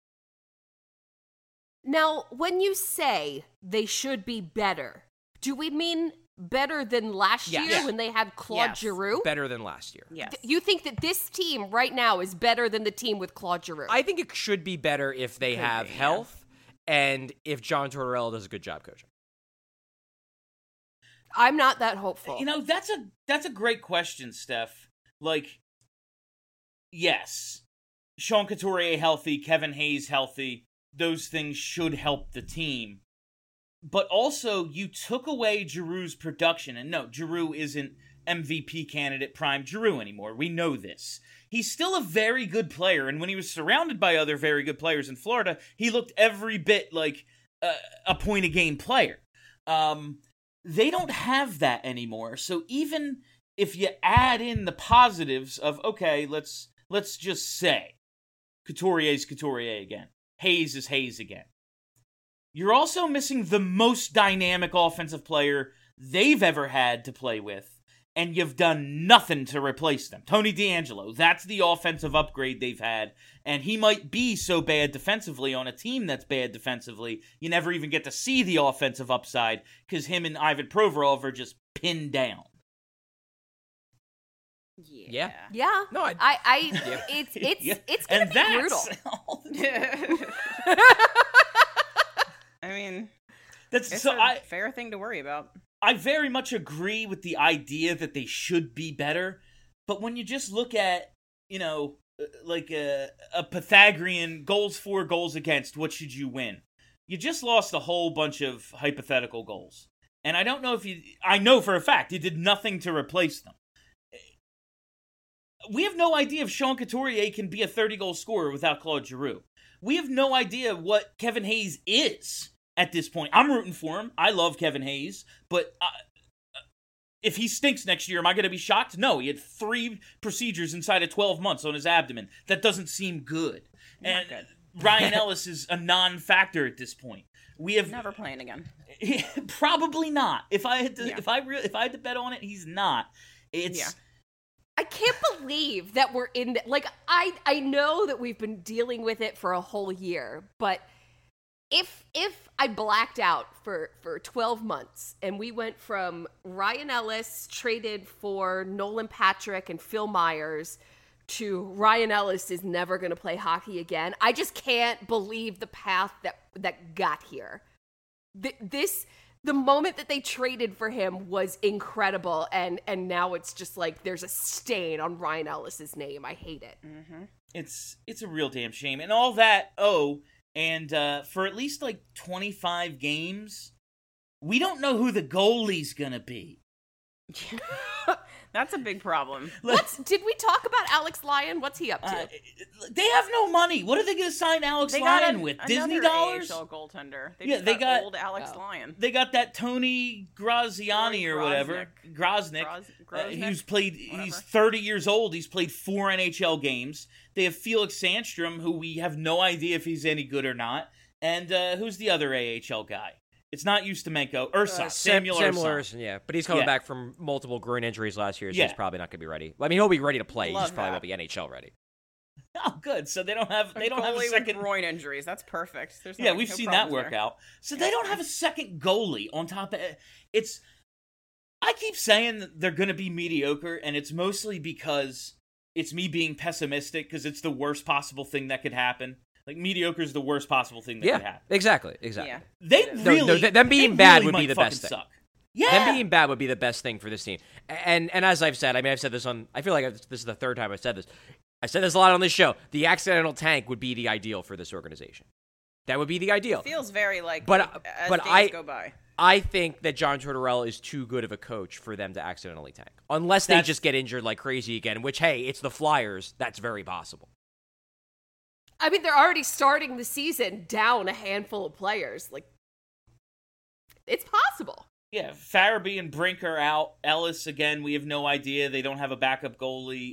Now, when you say they should be better, do we mean better than last Yes. year when they had Claude Yes. Giroux? Better than last year. Yes. You think that this team right now is better than the team with Claude Giroux? I think it should be better if they Could have be, yeah. health and if John Tortorella does a good job coaching. I'm not that hopeful. You know, that's a great question, Steph. Like, yes, Sean Couturier healthy, Kevin Hayes healthy, those things should help the team. But also, you took away Giroux's production. And no, Giroux isn't MVP candidate prime Giroux anymore. We know this. He's still a very good player. And when he was surrounded by other very good players in Florida, he looked every bit like a point-a-game player. They don't have that anymore. So even if you add in the positives of, okay, let's just say Couturier's Couturier again. Hayes is Hayes again. You're also missing the most dynamic offensive player they've ever had to play with and you've done nothing to replace them. Tony D'Angelo, that's the offensive upgrade they've had, and he might be so bad defensively on a team that's bad defensively, you never even get to see the offensive upside because him and Ivan Provorov are just pinned down. Yeah. Yeah. No, it's gonna be brutal. I mean, That's it's so a fair thing to worry about. I very much agree with the idea that they should be better, but when you just look at, like a Pythagorean goals for, goals against, what should you win? You just lost a whole bunch of hypothetical goals. And I don't know if I know for a fact you did nothing to replace them. We have no idea if Sean Couturier can be a 30-goal scorer without Claude Giroux. We have no idea what Kevin Hayes is at this point. I'm rooting for him. I love Kevin Hayes, but if he stinks next year, am I going to be shocked? No, he had 3 procedures inside of 12 months on his abdomen. That doesn't seem good. And Ryan Ellis is a non-factor at this point. We have Never playing again. Probably not. If I had to, if I had to bet on it, he's not. I can't believe that we're in like I know that we've been dealing with it for a whole year, but if I blacked out for 12 months and we went from Ryan Ellis traded for Nolan Patrick and Phil Myers to Ryan Ellis is never going to play hockey again, I just can't believe the path that got here. The moment that they traded for him was incredible, and now it's just like there's a stain on Ryan Ellis's name. I hate it. Mm-hmm. It's a real damn shame. And all that, and for at least like 25 games, we don't know who the goalie's gonna be. That's a big problem. Did we talk about Alex Lyon? What's he up to? They have no money. What are they going to sign Alex Lyon with? Disney dollars? AHL goaltender. They got old Alex Lyon. They got that Tony Graziani or whatever. Groznik. Who's played. He's 30 years old. He's played 4 NHL games. They have Felix Sandstrom, who we have no idea if he's any good or not. And who's the other AHL guy? It's not Ustimenko. Ursa. Samuel Ursa, yeah. But he's coming back from multiple groin injuries last year, so he's probably not going to be ready. I mean, he'll be ready to play. He just probably won't be NHL ready. Oh, good. So they don't have a second groin injuries. That's perfect. We've seen that work out. So they don't have a second goalie on top of it. I keep saying that they're going to be mediocre, and it's mostly because it's me being pessimistic because it's the worst possible thing that could happen. Like, mediocre is the worst possible thing that could happen. Exactly. Yeah. Them being bad would be the best thing. Suck. Yeah. Them being bad would be the best thing for this team. And as I've said, I mean, I've said this I feel like this is the third time I've said this. I said this a lot on this show. The accidental tank would be the ideal for this organization. That would be the ideal. It feels very like as but days go by. I think that John Tortorella is too good of a coach for them to accidentally tank. Unless they just get injured like crazy again, which, hey, it's the Flyers. That's very possible. I mean, they're already starting the season down a handful of players. Like, it's possible. Yeah, Farabee and Brink are out. Ellis, again, we have no idea. They don't have a backup goalie.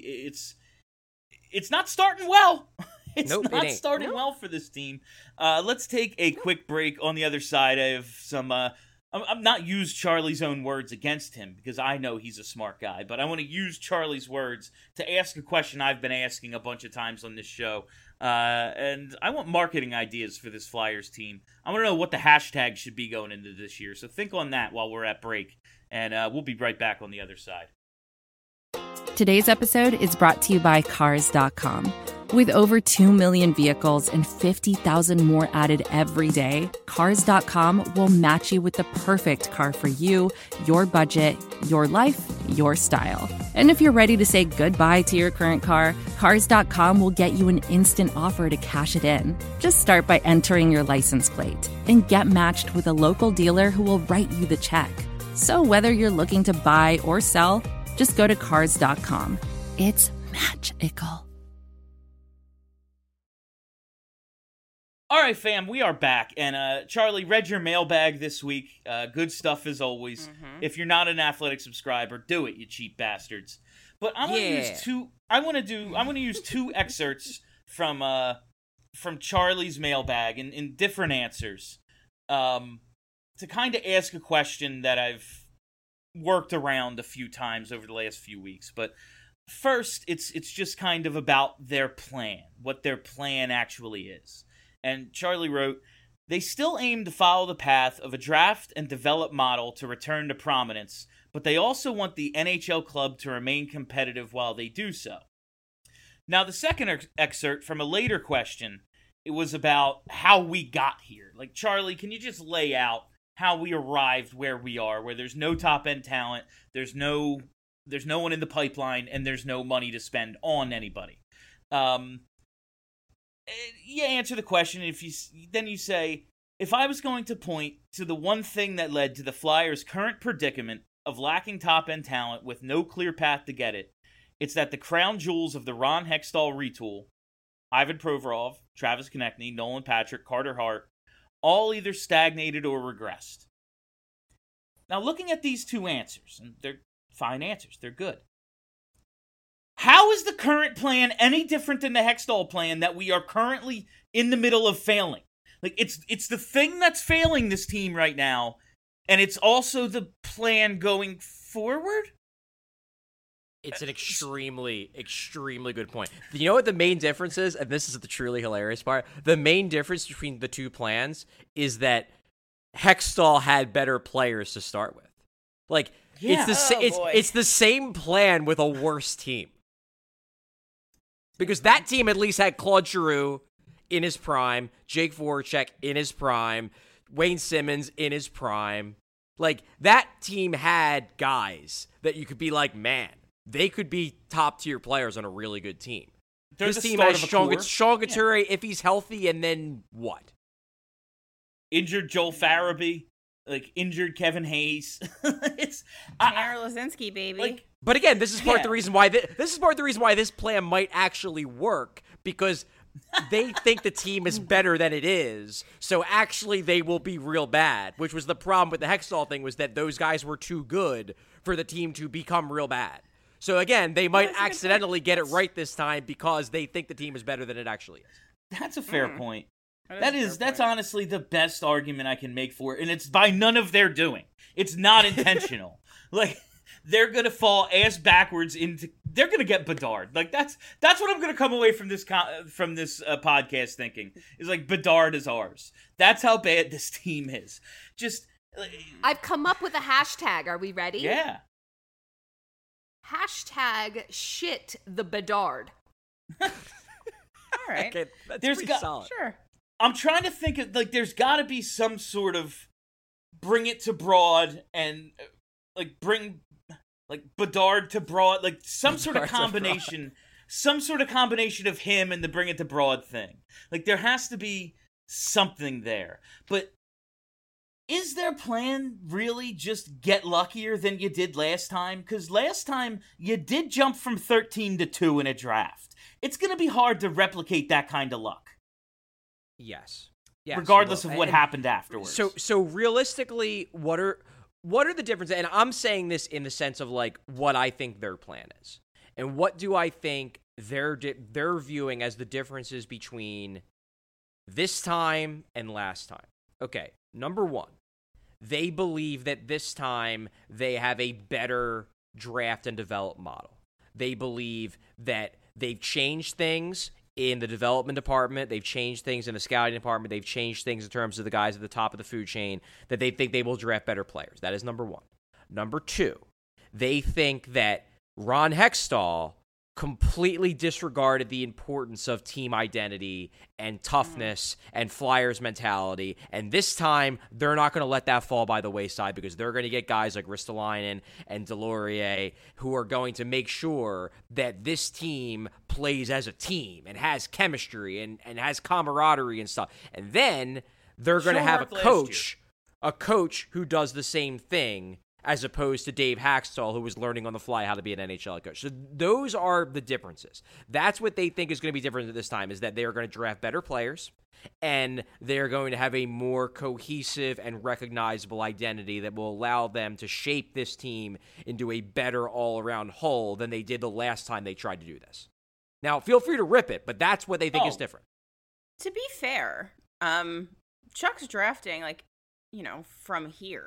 It's not starting well. It's not starting well for this team. Let's take a quick break. On the other side, I have some... I'm not use Charlie's own words against him because I know he's a smart guy, but I want to use Charlie's words to ask a question I've been asking a bunch of times on this show. And I want marketing ideas for this Flyers team. I want to know what the hashtag should be going into this year. So think on that while we're at break, and we'll be right back on the other side. Today's episode is brought to you by Cars.com. With over 2 million vehicles and 50,000 more added every day, Cars.com will match you with the perfect car for you, your budget, your life, your style. And if you're ready to say goodbye to your current car, Cars.com will get you an instant offer to cash it in. Just start by entering your license plate and get matched with a local dealer who will write you the check. So whether you're looking to buy or sell, just go to Cars.com. It's magical. All right, fam, we are back, and Charlie, read your mailbag this week. Good stuff as always. Mm-hmm. If you're not an Athletic subscriber, do it, you cheap bastards. But I want to use two. I want to use 2 excerpts from Charlie's mailbag in different answers, to kind of ask a question that I've worked around a few times over the last few weeks. But first, it's just kind of about their plan, what their plan actually is. And Charlie wrote, they still aim to follow the path of a draft and develop model to return to prominence, but they also want the NHL club to remain competitive while they do so. Now, the second excerpt from a later question, it was about how we got here. Like, Charlie, can you just lay out how we arrived where we are, where there's no top-end talent, there's no one in the pipeline, and there's no money to spend on anybody? You answer the question, and then you say, if I was going to point to the one thing that led to the Flyers' current predicament of lacking top-end talent with no clear path to get it, it's that the crown jewels of the Ron Hextall retool, Ivan Provorov, Travis Konechny, Nolan Patrick, Carter Hart, all either stagnated or regressed. Now, looking at these two answers, and they're fine answers, they're good. How is the current plan any different than the Hextall plan that we are currently in the middle of failing? Like, it's the thing that's failing this team right now, and it's also the plan going forward? It's an extremely, extremely good point. You know what the main difference is? And this is the truly hilarious part. The main difference between the two plans is that Hextall had better players to start with. Like, Yeah. it's the same plan with a worse team. Because that team at least had Claude Giroux in his prime, Jake Voracek in his prime, Wayne Simmons in his prime. Like, that team had guys that you could be like, man, they could be top-tier players on a really good team. They're This the team start has of a Sean core. Couturier if he's healthy, and then what? Injured Joel Farabee, like injured Kevin Hayes. It's Tanner Lazinski, baby. like But again, this is part of the Yeah. reason why this is part of the reason why this plan might actually work, because they think the team is better than it is. So actually, they will be real bad. Which was the problem with the Hextall thing, was that those guys were too good for the team to become real bad. So again, they might that's a good accidentally point. get it right this time because they think the team is better than it actually is. that's a fair point. That is a fair That's point. honestly the best argument I can make for it, and it's by none of their doing. It's not intentional. Like, they're gonna fall ass backwards into. They're gonna get Bedard. Like, that's what I'm gonna come away from this podcast thinking is like Bedard is ours. That's how bad this team is. Just I've come up with a hashtag. Are we ready? yeah. Hashtag shit the Bedard. All right. Okay, that's There's pretty got- solid. Sure. I'm trying to think of, like, there's got to be some sort of bring it to Broad and, like, bring, like, Bedard to Broad, like, some sort of Bedard to Broad. combination, some sort of combination of him and the bring it to Broad thing. Like, there has to be something there. But is their plan really just get luckier than you did last time? Because last time, you did jump from 13 to 2 in a draft. It's going to be hard to replicate that kind of luck. Yes. Yes, Regardless well, of what and- happened afterwards. So realistically, what are the differences? And I'm saying this in the sense of like what I think their plan is, and what do I think they're viewing as the differences between this time and last time. Okay, number one, they believe that this time they have a better draft and develop model. They believe that they've changed things in the development department, they've changed things in the scouting department, they've changed things in terms of the guys at the top of the food chain, that they think they will draft better players. That is number one. Number two, they think that Ron Hextall completely disregarded the importance of team identity and toughness and Flyers mentality, and this time they're not going to let that fall by the wayside because they're going to get guys like Ristolainen and Delorier who are going to make sure that this team plays as a team and has chemistry and has camaraderie and stuff. And then they're going to Show have worked last a coach who does the same thing, as opposed to Dave Haxtell, who was learning on the fly how to be an NHL coach. So those are the differences. That's what they think is going to be different this time, is that they are going to draft better players, and they're going to have a more cohesive and recognizable identity that will allow them to shape this team into a better all-around whole than they did the last time they tried to do this. Now, feel free to rip it, but that's what they think is different. To be fair, Chuck's drafting, like, you know, from here.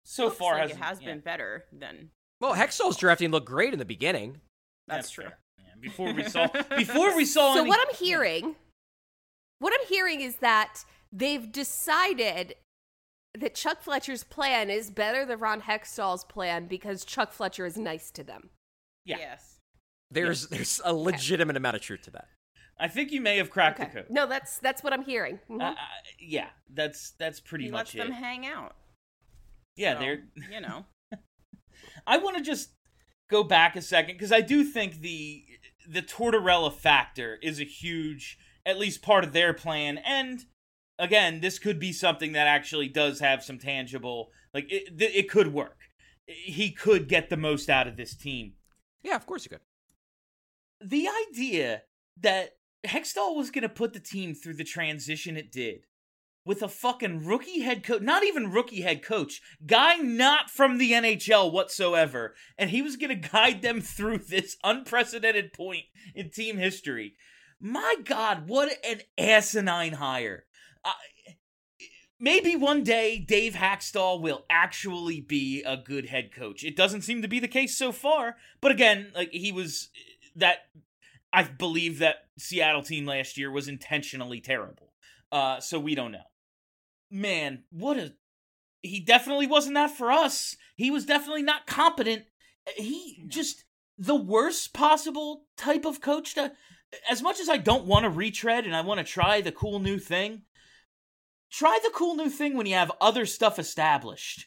so Looks far like it has been better than. Well, Hextall's drafting looked great in the beginning. That's true. fair. Yeah, before we saw. So any- what I'm hearing is that they've decided that Chuck Fletcher's plan is better than Ron Hextall's plan because Chuck Fletcher is nice to them. Yeah. Yes. There's a legitimate amount of truth to that. I think you may have cracked Okay. the code. No, that's what I'm hearing. Mhm. Yeah, that's pretty He much lets them it. hang out. Yeah, So, they're. You know. I want to just go back a second because I do think the Tortorella factor is a huge, at least part of their plan, and again, this could be something that actually does have some tangible, like it could work. He could get the most out of this team. Yeah, of course you could. The idea that Hextall was going to put the team through the transition it did with a fucking rookie head coach, not even rookie head coach, guy not from the NHL whatsoever, and he was going to guide them through this unprecedented point in team history. My God, what an asinine hire. Maybe one day Dave Hackstall will actually be a good head coach. It doesn't seem to be the case so far, but again, like he was that. I believe that Seattle team last year was intentionally terrible. So we don't know. Man, he definitely wasn't that for us. He was definitely not competent. He just the worst possible type of coach to, as much as I don't want to retread and I want to try the cool new thing, try the cool new thing when you have other stuff established.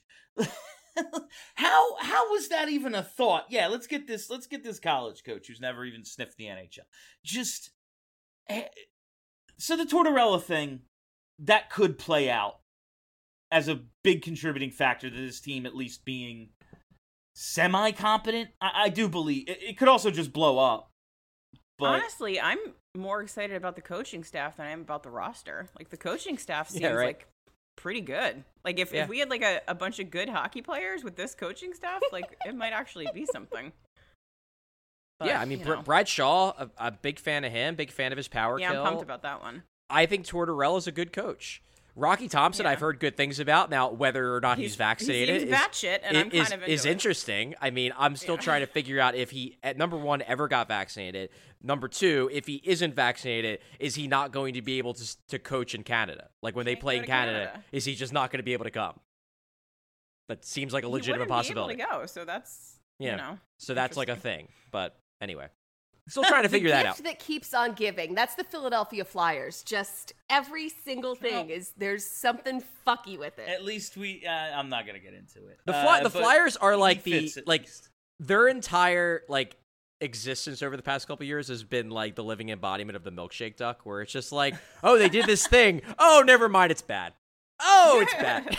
How was that even a thought? Yeah, let's get this college coach who's never even sniffed the NHL. Just so the Tortorella thing that could play out as a big contributing factor to this team at least being semi-competent. I do believe it could also just blow up. But honestly, I'm more excited about the coaching staff than I am about the roster. Like the coaching staff seems like pretty good. Like if we had like a bunch of good hockey players with this coaching staff, like it might actually be something. But, yeah, I mean, Brad Shaw, a big fan of him, big fan of his power kill. Yeah, I'm pumped about that one. I think Tortorella's a good coach. Rocky Thompson, I've heard good things about. Now, whether or not he's vaccinated he seems batshit, and I'm kind of into is interesting. I mean, I'm still trying to figure out if he, at number one, ever got vaccinated. Number two, if he isn't vaccinated, is he not going to be able to coach in Canada? Like when they play in Canada, is he just not going to be able to come? That seems like a legitimate possibility. Be able to go, so that's you know, so that's like a thing. But anyway. Still trying to figure that out. The gift that keeps on giving. That's the Philadelphia Flyers. Just every single thing is there's something fucky with it. At least I'm not gonna get into it. The Flyers are like least. their entire like existence over the past couple of years has been like the living embodiment of the milkshake duck, where it's just like, oh, they did this thing. Oh, never mind, it's bad. Oh, it's bad.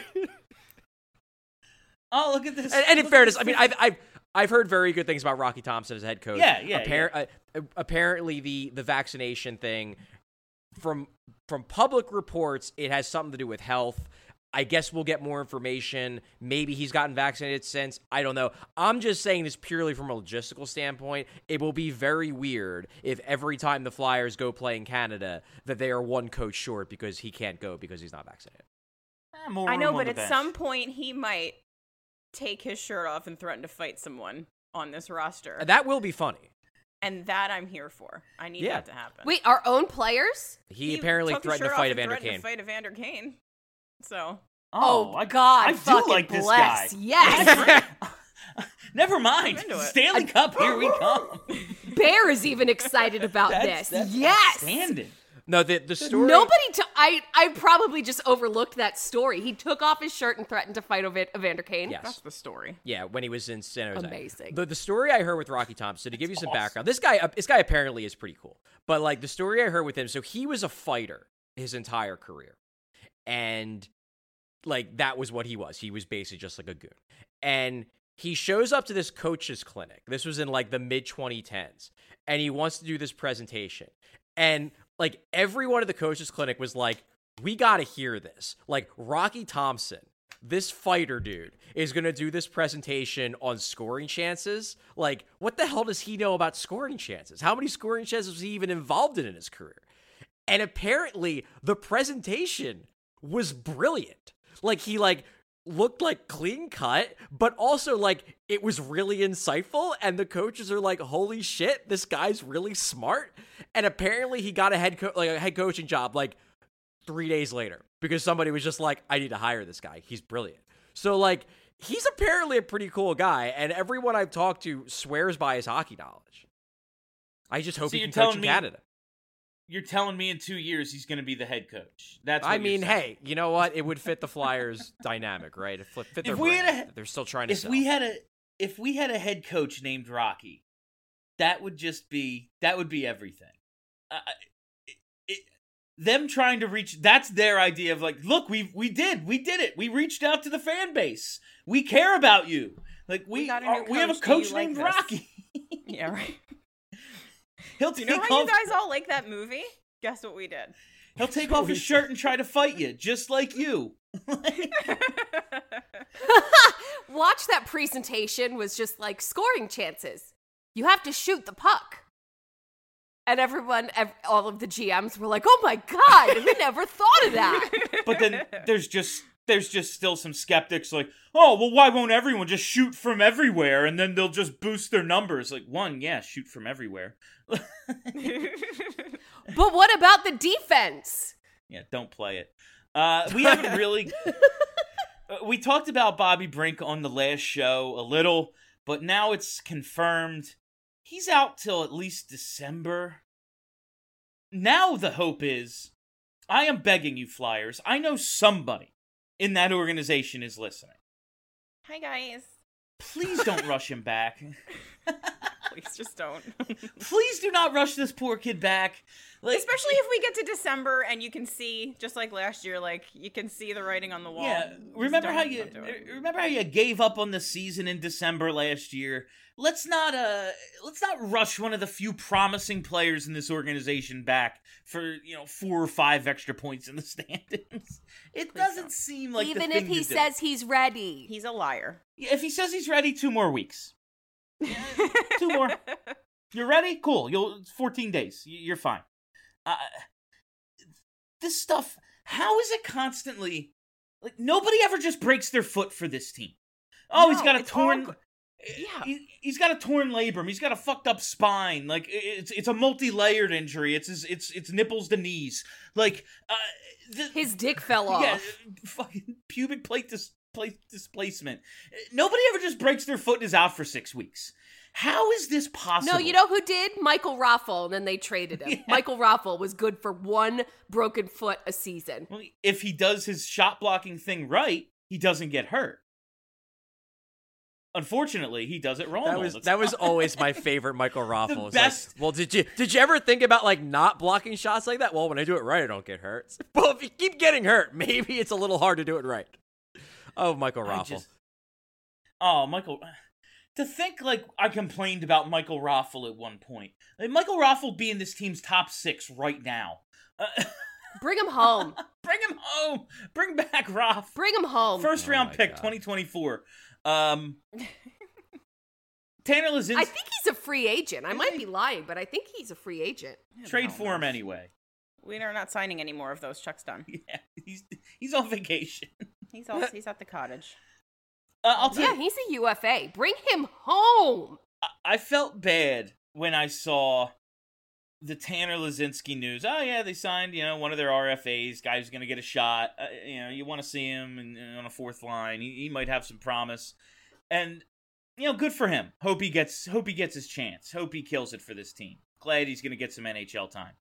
Oh, look at this. And in fairness, I mean, I've heard very good things about Rocky Thompson as head coach. Yeah. Apparently, the vaccination thing, from public reports, it has something to do with health. I guess we'll get more information. Maybe he's gotten vaccinated since. I don't know. I'm just saying this purely from a logistical standpoint. It will be very weird if every time the Flyers go play in Canada that they are one coach short because he can't go because he's not vaccinated. I know, but at some point he might take his shirt off and threaten to fight someone on this roster. That will be funny. And that I'm here for. I need that to happen. Wait, our own players? He apparently threatened to fight Evander Kane. So. Oh God! I do like this guy. Yes. Never mind. Stanley Cup, here we come. Bear is even excited about this. Yes. Outstanding. No, the story. Nobody. I probably just overlooked that story. He took off his shirt and threatened to fight Evander Kane. Yes, that's the story. Yeah, when he was in San Jose. Amazing. The story I heard with Rocky Thompson, to give you some background, this guy apparently is pretty cool. But like the story I heard with him, so he was a fighter his entire career, and like that was what he was. He was basically just like a goon, and he shows up to this coach's clinic. This was in like the mid 2010s, and he wants to do this presentation, and like everyone at the coach's clinic was like, we got to hear this. Like Rocky Thompson, this fighter dude, is going to do this presentation on scoring chances. Like, what the hell does he know about scoring chances? How many scoring chances was he even involved in his career? And apparently the presentation was brilliant. Like he like looked like clean cut, but also like it was really insightful, and the coaches are like, holy shit, this guy's really smart. And apparently he got a head coaching job like 3 days later because somebody was just like, I need to hire this guy. He's brilliant. So like he's apparently a pretty cool guy, and everyone I've talked to swears by his hockey knowledge. I just hope he can coach in Canada. You're telling me in 2 years he's going to be the head coach. That's what I mean, you're saying. hey, you know what? It would fit the Flyers dynamic, right? It fit their brand. They're still trying to sell. If we had a head coach named Rocky, that would be everything. Them trying to reach, that's their idea of like, look, we did it. We reached out to the fan base. We care about you. Like we have a coach named Rocky. Yeah, right. He'll Do you take know how off, you guys all like that movie? Guess what we did? He'll take off his shirt and try to fight you, just like you. Watch that presentation was just like scoring chances. You have to shoot the puck. And all of the GMs were like, oh my God, we never thought of that. But then there's just still some skeptics like, oh, well, why won't everyone just shoot from everywhere and then they'll just boost their numbers? Like, shoot from everywhere. But what about the defense? Yeah, don't play it. We haven't really... we talked about Bobby Brink on the last show a little, but now it's confirmed. He's out till at least December. Now the hope is, I am begging you, Flyers, I know somebody in that organization is listening. Hi, guys. Please don't rush him back. Please just don't. Please do not rush this poor kid back. Like, especially if we get to December and you can see, just like last year, like you can see the writing on the wall. Yeah, remember how you gave up on the season in December last year? Let's not rush one of the few promising players in this organization back for 4 or 5 extra points in the standings. It doesn't seem like even the thing if he to do. says he's ready. He's a liar. Yeah, if he says he's ready, 2 more weeks. 2 more. You're ready? Cool. 14 days. You're fine. This stuff, how is it constantly like nobody ever just breaks their foot for this team? Oh, No, he's got a it's torn all he's got a torn labrum. He's got a fucked up spine. Like it's a multi-layered injury. It's nipples to knees. Like his dick fell off. Yeah, fucking pubic plate displacement. Nobody ever just breaks their foot and is out for 6 weeks. How is this possible? No, you know who did? Michael Raffle, and then they traded him. Yeah. Michael Raffle was good for 1 broken foot a season. Well, if he does his shot blocking thing right, he doesn't get hurt. Unfortunately, he does it wrong. That was always my favorite Michael Raffle. The best. Like, well, did you ever think about like not blocking shots like that? Well, when I do it right, I don't get hurt. Well, if you keep getting hurt, maybe it's a little hard to do it right. Oh, Michael Raffle. Michael. To think like I complained about Michael Raffle at one point. Like, Michael Raffle be in this team's top 6 right now. Bring him home. Bring him home. Bring back Raff. Bring him home. First round pick, 2024. Tanner Lazinski. I think he's a free agent. I might be lying, but I think he's a free agent. Trade for him anyway. We are not signing any more of those. Chuck's done. Yeah, he's on vacation. He's at the cottage. I'll tell you, he's a UFA. Bring him home. I felt bad when I saw the Tanner Lazinski news. Oh yeah, they signed one of their RFAs. Guy's gonna get a shot. You want to see him on a 4th line. He might have some promise, and good for him. Hope he gets his chance. Hope he kills it for this team. Glad he's gonna get some NHL time.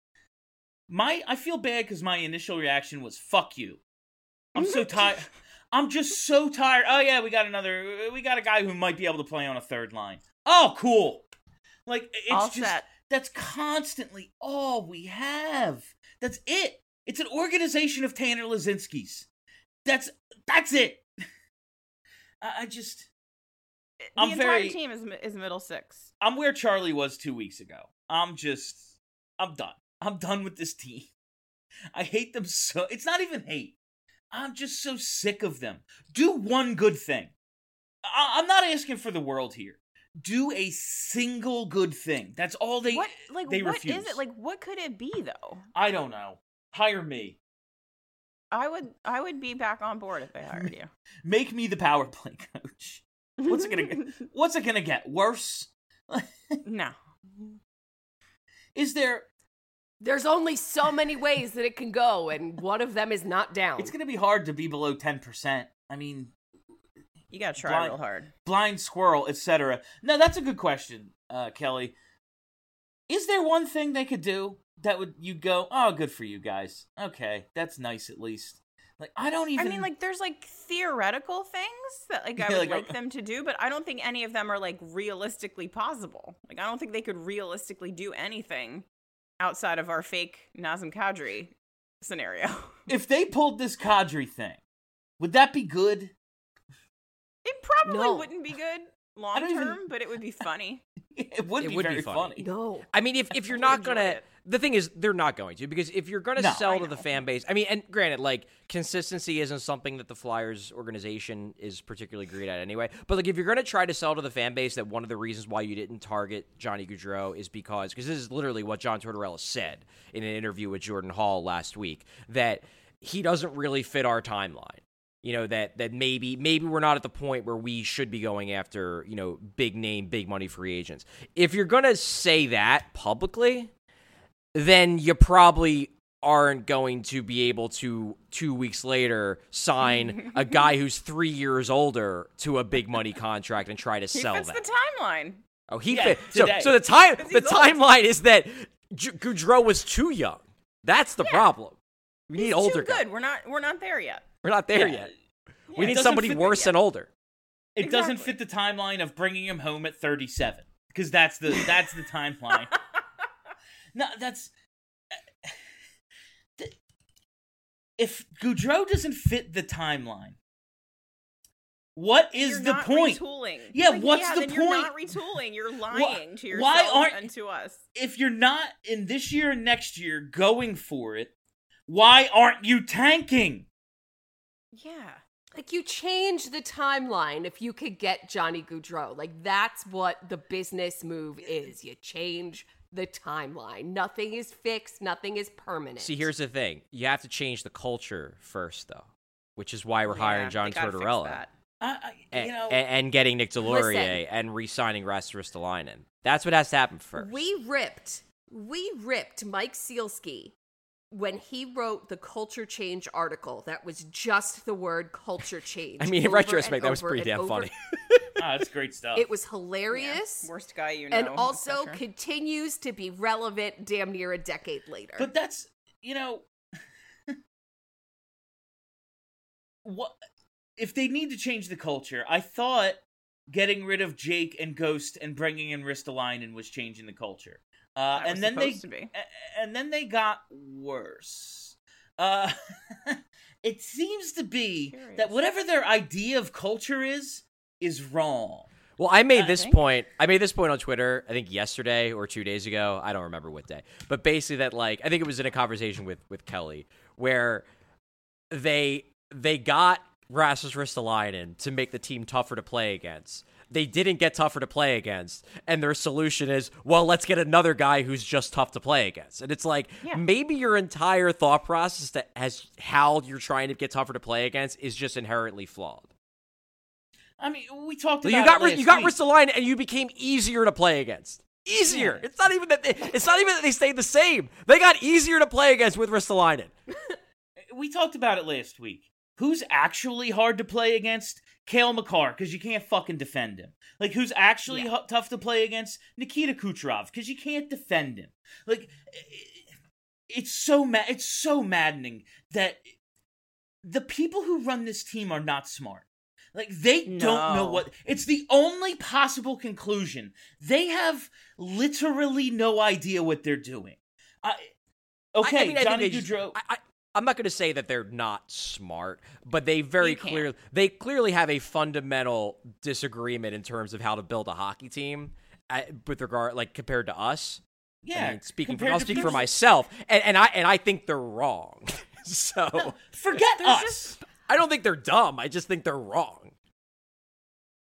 I feel bad because my initial reaction was fuck you. I'm so tired. I'm just so tired. Oh yeah, we got a guy who might be able to play on a 3rd line. Oh, cool. Like it's that's constantly all we have. That's it. It's an organization of Tanner Lazinskis. That's it. The entire team is middle 6. I'm where Charlie was 2 weeks ago. I'm done. I'm done with this team. I hate them so. It's not even hate. I'm just so sick of them. Do one good thing. I'm not asking for the world here. Do a single good thing. That's all they refuse. What is it? Like, what could it be, though? I don't know. Hire me. I would be back on board if they hired you. Make me the power play coach. What's it gonna get? Worse? No. Is there? There's only so many ways that it can go, and one of them is not down. It's gonna be hard to be below 10%. I mean, You gotta try real hard. Blind squirrel, etc. No, that's a good question, Kelly. Is there one thing they could do that you'd go, oh, good for you guys. Okay, that's nice at least. Like, I mean, like, there's, like, theoretical things that, like, I would like them to do, but I don't think any of them are, like, realistically possible. Like, I don't think they could realistically do anything outside of our fake Nazem Kadri scenario. If they pulled this Kadri thing, would that be good? It probably wouldn't be good long term, but it would be funny. It would be very funny. No. I mean, if you're not gonna, the thing is, they're not going to, because if you're gonna sell to the fan base, I mean, and granted, like, consistency isn't something that the Flyers organization is particularly great at anyway. But like, if you're gonna try to sell to the fan base that one of the reasons why you didn't target Johnny Gaudreau is because this is literally what John Tortorella said in an interview with Jordan Hall last week, that he doesn't really fit our timeline. You know, that maybe we're not at the point where we should be going after, you know, big name, big money free agents. If you're going to say that publicly, then you probably aren't going to be able to 2 weeks later sign a guy who's 3 years older to a big money contract and try to sell that. He fits the timeline. Oh, he fit. So the timeline is that Gaudreau was too young. That's the problem. We need older guys. Good. We're not there yet. We're not there yet. We need somebody worse and older. It doesn't fit the timeline of bringing him home at 37, because that's the timeline. No, that's if Gaudreau doesn't fit the timeline, what is the point? Retooling. Yeah, what's the point? You're not retooling. You're lying to yourself and to us. If you're not in this year and next year going for it, why aren't you tanking? Yeah. Like, you change the timeline if you could get Johnny Gaudreau. Like, that's what the business move is. You change the timeline. Nothing is fixed. Nothing is permanent. See, here's the thing. You have to change the culture first, though, which is why we're hiring John Tortorella. And getting Nick Delorier and re-signing Rasmus Ristolainen. That's what has to happen first. We ripped Mike Sealski when he wrote the culture change article. That was just the word culture change. I mean, in retrospect, that was pretty damn funny. That's great stuff. It was hilarious. Yeah. Worst guy you know. And also continues to be relevant damn near a decade later. But that's, you know, what if they need to change the culture? I thought getting rid of Jake and Ghost and bringing in Ristolainen was changing the culture. And then they got worse. It seems to be that whatever their idea of culture is wrong. Well, I made this point on Twitter, I think yesterday or 2 days ago. I don't remember what day. But basically that, like, I think it was in a conversation with Kelly, where they got Rasmus Ristolainen to make the team tougher to play against. They didn't get tougher to play against, and their solution is, well, let's get another guy who's just tough to play against. And it's like, maybe your entire thought process that has how you're trying to get tougher to play against is just inherently flawed. I mean, we talked about you got Ristolainen, and you became easier to play against. Easier. Yeah. It's not even that they stayed the same. They got easier to play against with Ristolainen. We talked about it last week. Who's actually hard to play against? Cale Makar, because you can't fucking defend him. Like, who's actually tough to play against? Nikita Kucherov, because you can't defend him. Like, it's so maddening that the people who run this team are not smart. Like, they don't know what... It's the only possible conclusion. They have literally no idea what they're doing. Johnny Gaudreau... I'm not going to say that they're not smart, but they clearly have a fundamental disagreement in terms of how to build a hockey team with regard, like, compared to us. Yeah, I'll speak for myself, and I think they're wrong. So no, forget us. I don't think they're dumb. I just think they're wrong.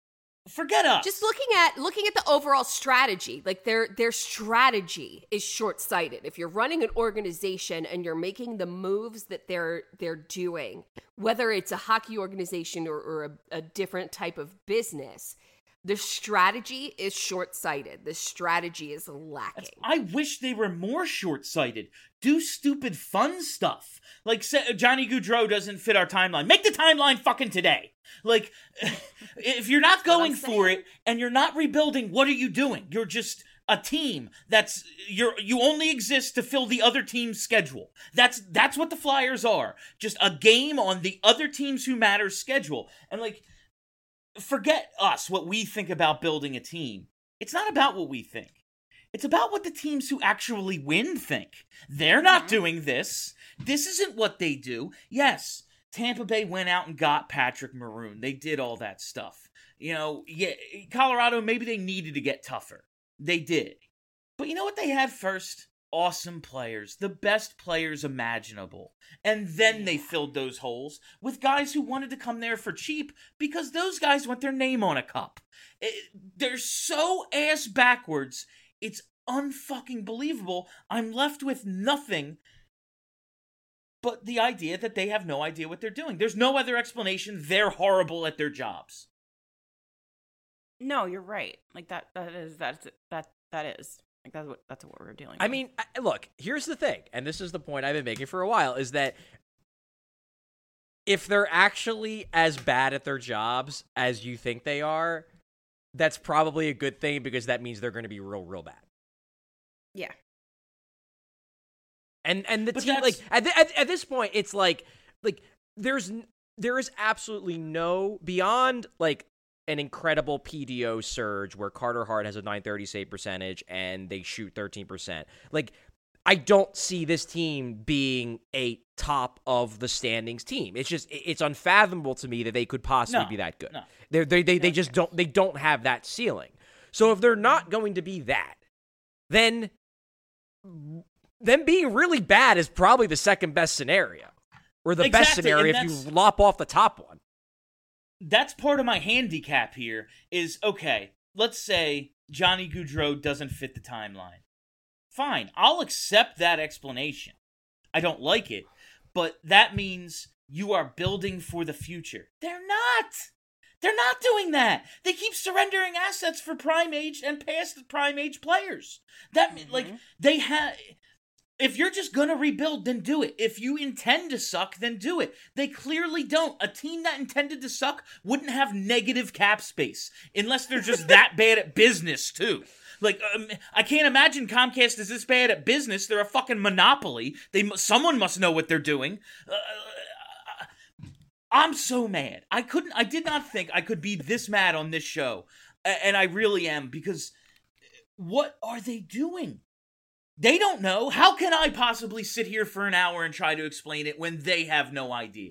Forget us. Just looking at the overall strategy, like their strategy is short-sighted. If you're running an organization and you're making the moves that they're doing, whether it's a hockey organization or a different type of business, the strategy is short-sighted. The strategy is lacking. I wish they were more short-sighted. Do stupid fun stuff. Like, Johnny Gaudreau doesn't fit our timeline. Make the timeline fucking today. Like, if you're not going for it and you're not rebuilding, what are you doing? You're just a team you only exist to fill the other team's schedule. That's what the Flyers are. Just a game on the other teams who matter schedule. And like, forget us, what we think about building a team. It's not about what we think. It's about what the teams who actually win think. They're not doing this. This isn't what they do. Yes, Tampa Bay went out and got Patrick Maroon. They did all that stuff. You know, yeah, Colorado, maybe they needed to get tougher. They did. But you know what they had first? Awesome players. The best players imaginable. And then they filled those holes with guys who wanted to come there for cheap because those guys want their name on a cup. They're so ass backwards. It's unfucking believable. I'm left with nothing but the idea that they have no idea what they're doing. There's no other explanation. They're horrible at their jobs. No, you're right. Like that is. Like that's what we're dealing with. I mean, look, here's the thing, and this is the point I've been making for a while, is that if they're actually as bad at their jobs as you think they are, that's probably a good thing because that means they're going to be real bad. Yeah. And the team, like at this point, it's like there is absolutely no, beyond like an incredible PDO surge where Carter Hart has a .930 save percentage and they shoot 13%. Like, I don't see this team being a top of the standings team. It's just, it's unfathomable to me that they could possibly be that good. No. They just don't have that ceiling. So if they're not going to be that, then them being really bad is probably the second best scenario, or the best scenario if you lop off the top one. That's part of my handicap here is, okay, let's say Johnny Gaudreau doesn't fit the timeline. Fine, I'll accept that explanation. I don't like it, but that means you are building for the future. They're not. They're not doing that. They keep surrendering assets for prime age and past prime age players. That like they have. If you're just gonna rebuild, then do it. If you intend to suck, then do it. They clearly don't. A team that intended to suck wouldn't have negative cap space unless they're just that bad at business too. Like, I can't imagine Comcast is this bad at business. They're a fucking monopoly. Someone must know what they're doing. I'm so mad. I did not think I could be this mad on this show. And I really am, because what are they doing? They don't know. How can I possibly sit here for an hour and try to explain it when they have no idea?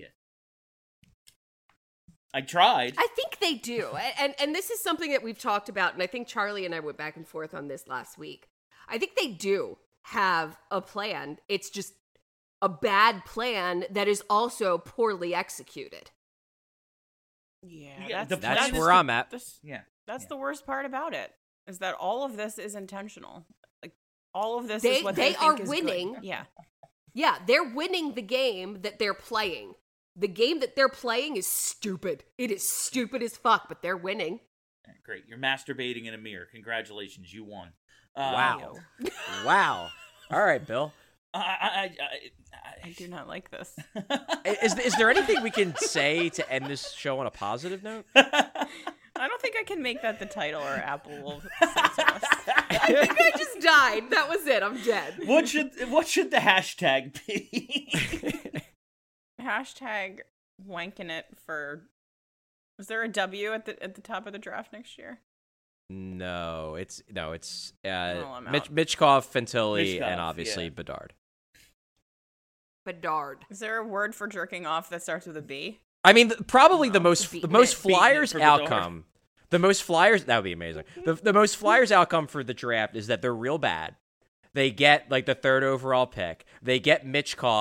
I tried. I think they do. And this is something that we've talked about, and I think Charlie and I went back and forth on this last week. I think they do have a plan. It's just a bad plan that is also poorly executed. Yeah, that's where I'm at. That's the worst part about it, is that all of this is intentional. Like, all of this is what they think are is winning. Good. Yeah. Yeah, they're winning the game that they're playing. The game that they're playing is stupid. It is stupid as fuck, but they're winning. Great. You're masturbating in a mirror. Congratulations, you won. Wow. Wow. All right, Bill. I do not like this. Is there anything we can say to end this show on a positive note? I don't think I can make that the title, or Apple will censor us. I think I just died. That was it. I'm dead. What should the hashtag be? Hashtag wanking it for. Is there a W at the top of the draft next year? No, it's I'm out. Mitchkov, Fantilli, and obviously Bedard. Bedard. Is there a word for jerking off that starts with a B? I mean, probably the most Flyers for outcome. The most Flyers, that would be amazing. The most Flyers outcome for the draft is that they're real bad. They get like the 3rd overall pick. They get Mitchkov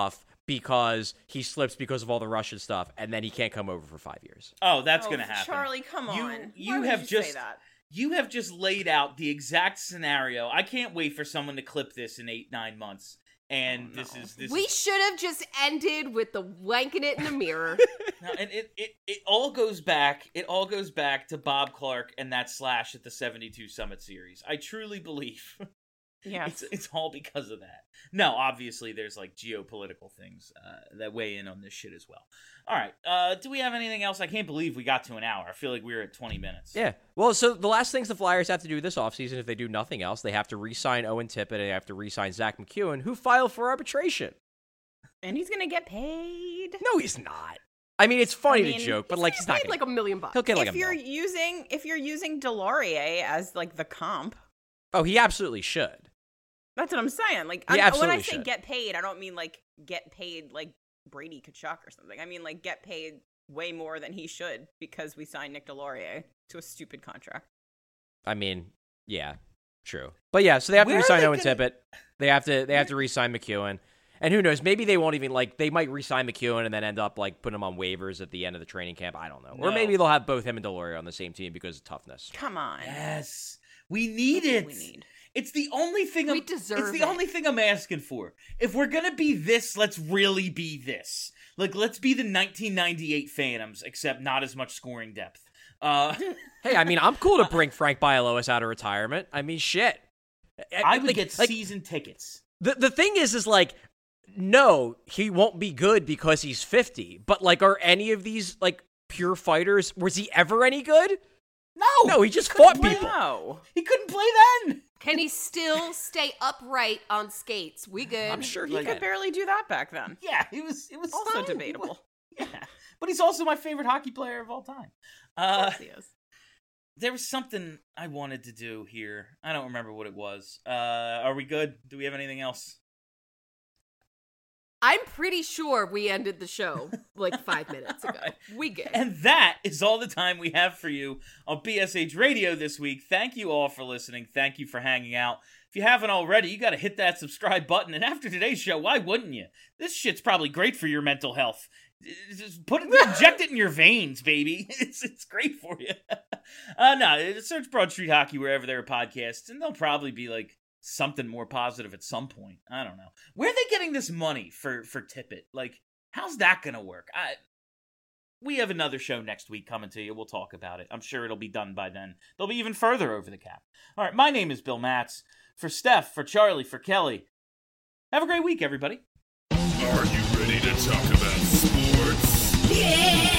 because he slips because of all the Russian stuff, and then he can't come over for 5 years. Oh, that's going to happen. Charlie, come on. You Why would have you just say that? You have just laid out the exact scenario. I can't wait for someone to clip this in 8-9 months. And this is We should have just ended with the wanking it in the mirror. No, and it all goes back. It all goes back to Bob Clark and that slash at the 72 Summit Series. I truly believe. Yes. It's all because of that. No, obviously there's like geopolitical things that weigh in on this shit as well. All right. Do we have anything else? I can't believe we got to an hour. I feel like we were at 20 minutes. Yeah. Well, so the last things the Flyers have to do this offseason, if they do nothing else, they have to re-sign Owen Tippett and they have to re-sign Zach McEwen, who filed for arbitration. And he's going to get paid. No, he's not. I mean, it's funny to joke, but like he's not paid like $1 million. He'll get like if you're using Delorier as like the comp. Oh, he absolutely should. That's what I'm saying. Like, He when absolutely I say should. get paid, I don't mean like get paid like Brady Kachuk or something. I mean like get paid way more than he should because we signed Nick Delorier to a stupid contract. I mean, yeah, true. But yeah, so they have to re-sign Owen Tippett. They have to re-sign McEwen. And who knows, maybe they won't even, like, they might re-sign McEwen and then end up, like, putting him on waivers at the end of the training camp. I don't know. No. Or maybe they'll have both him and Delorier on the same team because of toughness. Come on. Yes. We need it. We need. It's the only thing We deserve It's the it. only thing I'm asking for. If we're going to be this, let's really be this. Like, let's be the 1998 Phantoms, except not as much scoring depth. Hey, I mean, I'm cool to bring Frank Bialowas out of retirement. I mean, shit. I would Like- get like, season tickets. The thing is like, no, he won't be good because he's 50. But, like, are any of these, like, pure fighters, was he ever any good? No, he just fought people. No. He couldn't play then. Can he still stay upright on skates? We good. I'm sure he He can. could barely do that back then. Yeah, it was Also fine. debatable. Yeah, but he's also my favorite hockey player of all time. Of course he is. There was something I wanted to do here. I don't remember what it was. Are we good? Do we have anything else? I'm pretty sure we ended the show like 5 minutes ago. Right. We good. And that is all the time we have for you on BSH Radio this week. Thank you all for listening. Thank you for hanging out. If you haven't already, you got to hit that subscribe button. And after today's show, why wouldn't you? This shit's probably great for your mental health. Just inject it in your veins, baby. It's great for you. No, search Broad Street Hockey wherever there are podcasts, and they'll probably be like something more positive at some point. I don't know. Where are they getting this money for Tippett? Like, how's that gonna work? We have another show next week coming to you. We'll talk about it. I'm sure it'll be done by then. They'll be even further over the cap. All right, my name is Bill Matz. For Steph, for Charlie, for Kelly. Have a great week, everybody. Are you ready to talk about sports?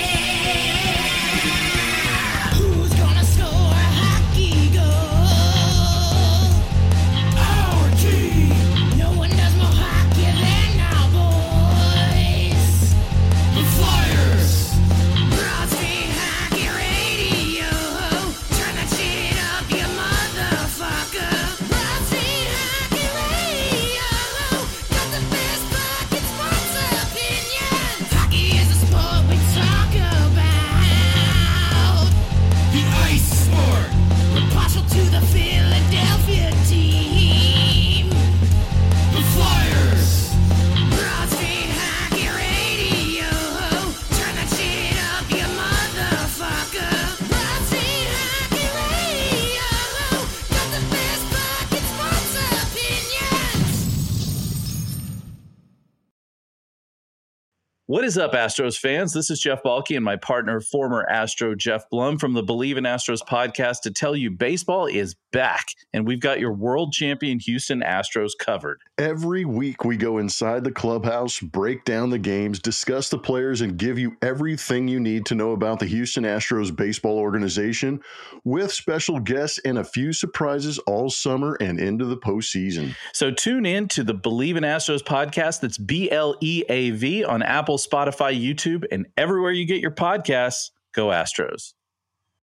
Who's gonna score a hockey goal? Our team. No one does more hockey than our boys. The Flyers. Broad Street Hockey Radio. Turn that shit up, you motherfucker. Broad Street Hockey Radio. Got the best fucking sports opinions. Hockey is a sport we talk about. The ice sport. We're partial to the Philadelphia team. The Flyers. Broad Street Hockey Radio. Turn that shit up, you motherfucker. Broad Street Hockey Radio. Got the best fucking sports opinions. What is up, Astros fans? This is Jeff Balke and my partner, former Astro Jeff Blum from the Believe in Astros podcast to tell you baseball is back, and we've got your world champion Houston Astros covered. Every week we go inside the clubhouse, break down the games, discuss the players, and give you everything you need to know about the Houston Astros baseball organization with special guests and a few surprises all summer and into the postseason. So tune in to the Believe in Astros podcast. That's BLEAV on Apple, Spotify, YouTube, and everywhere you get your podcasts. Go Astros.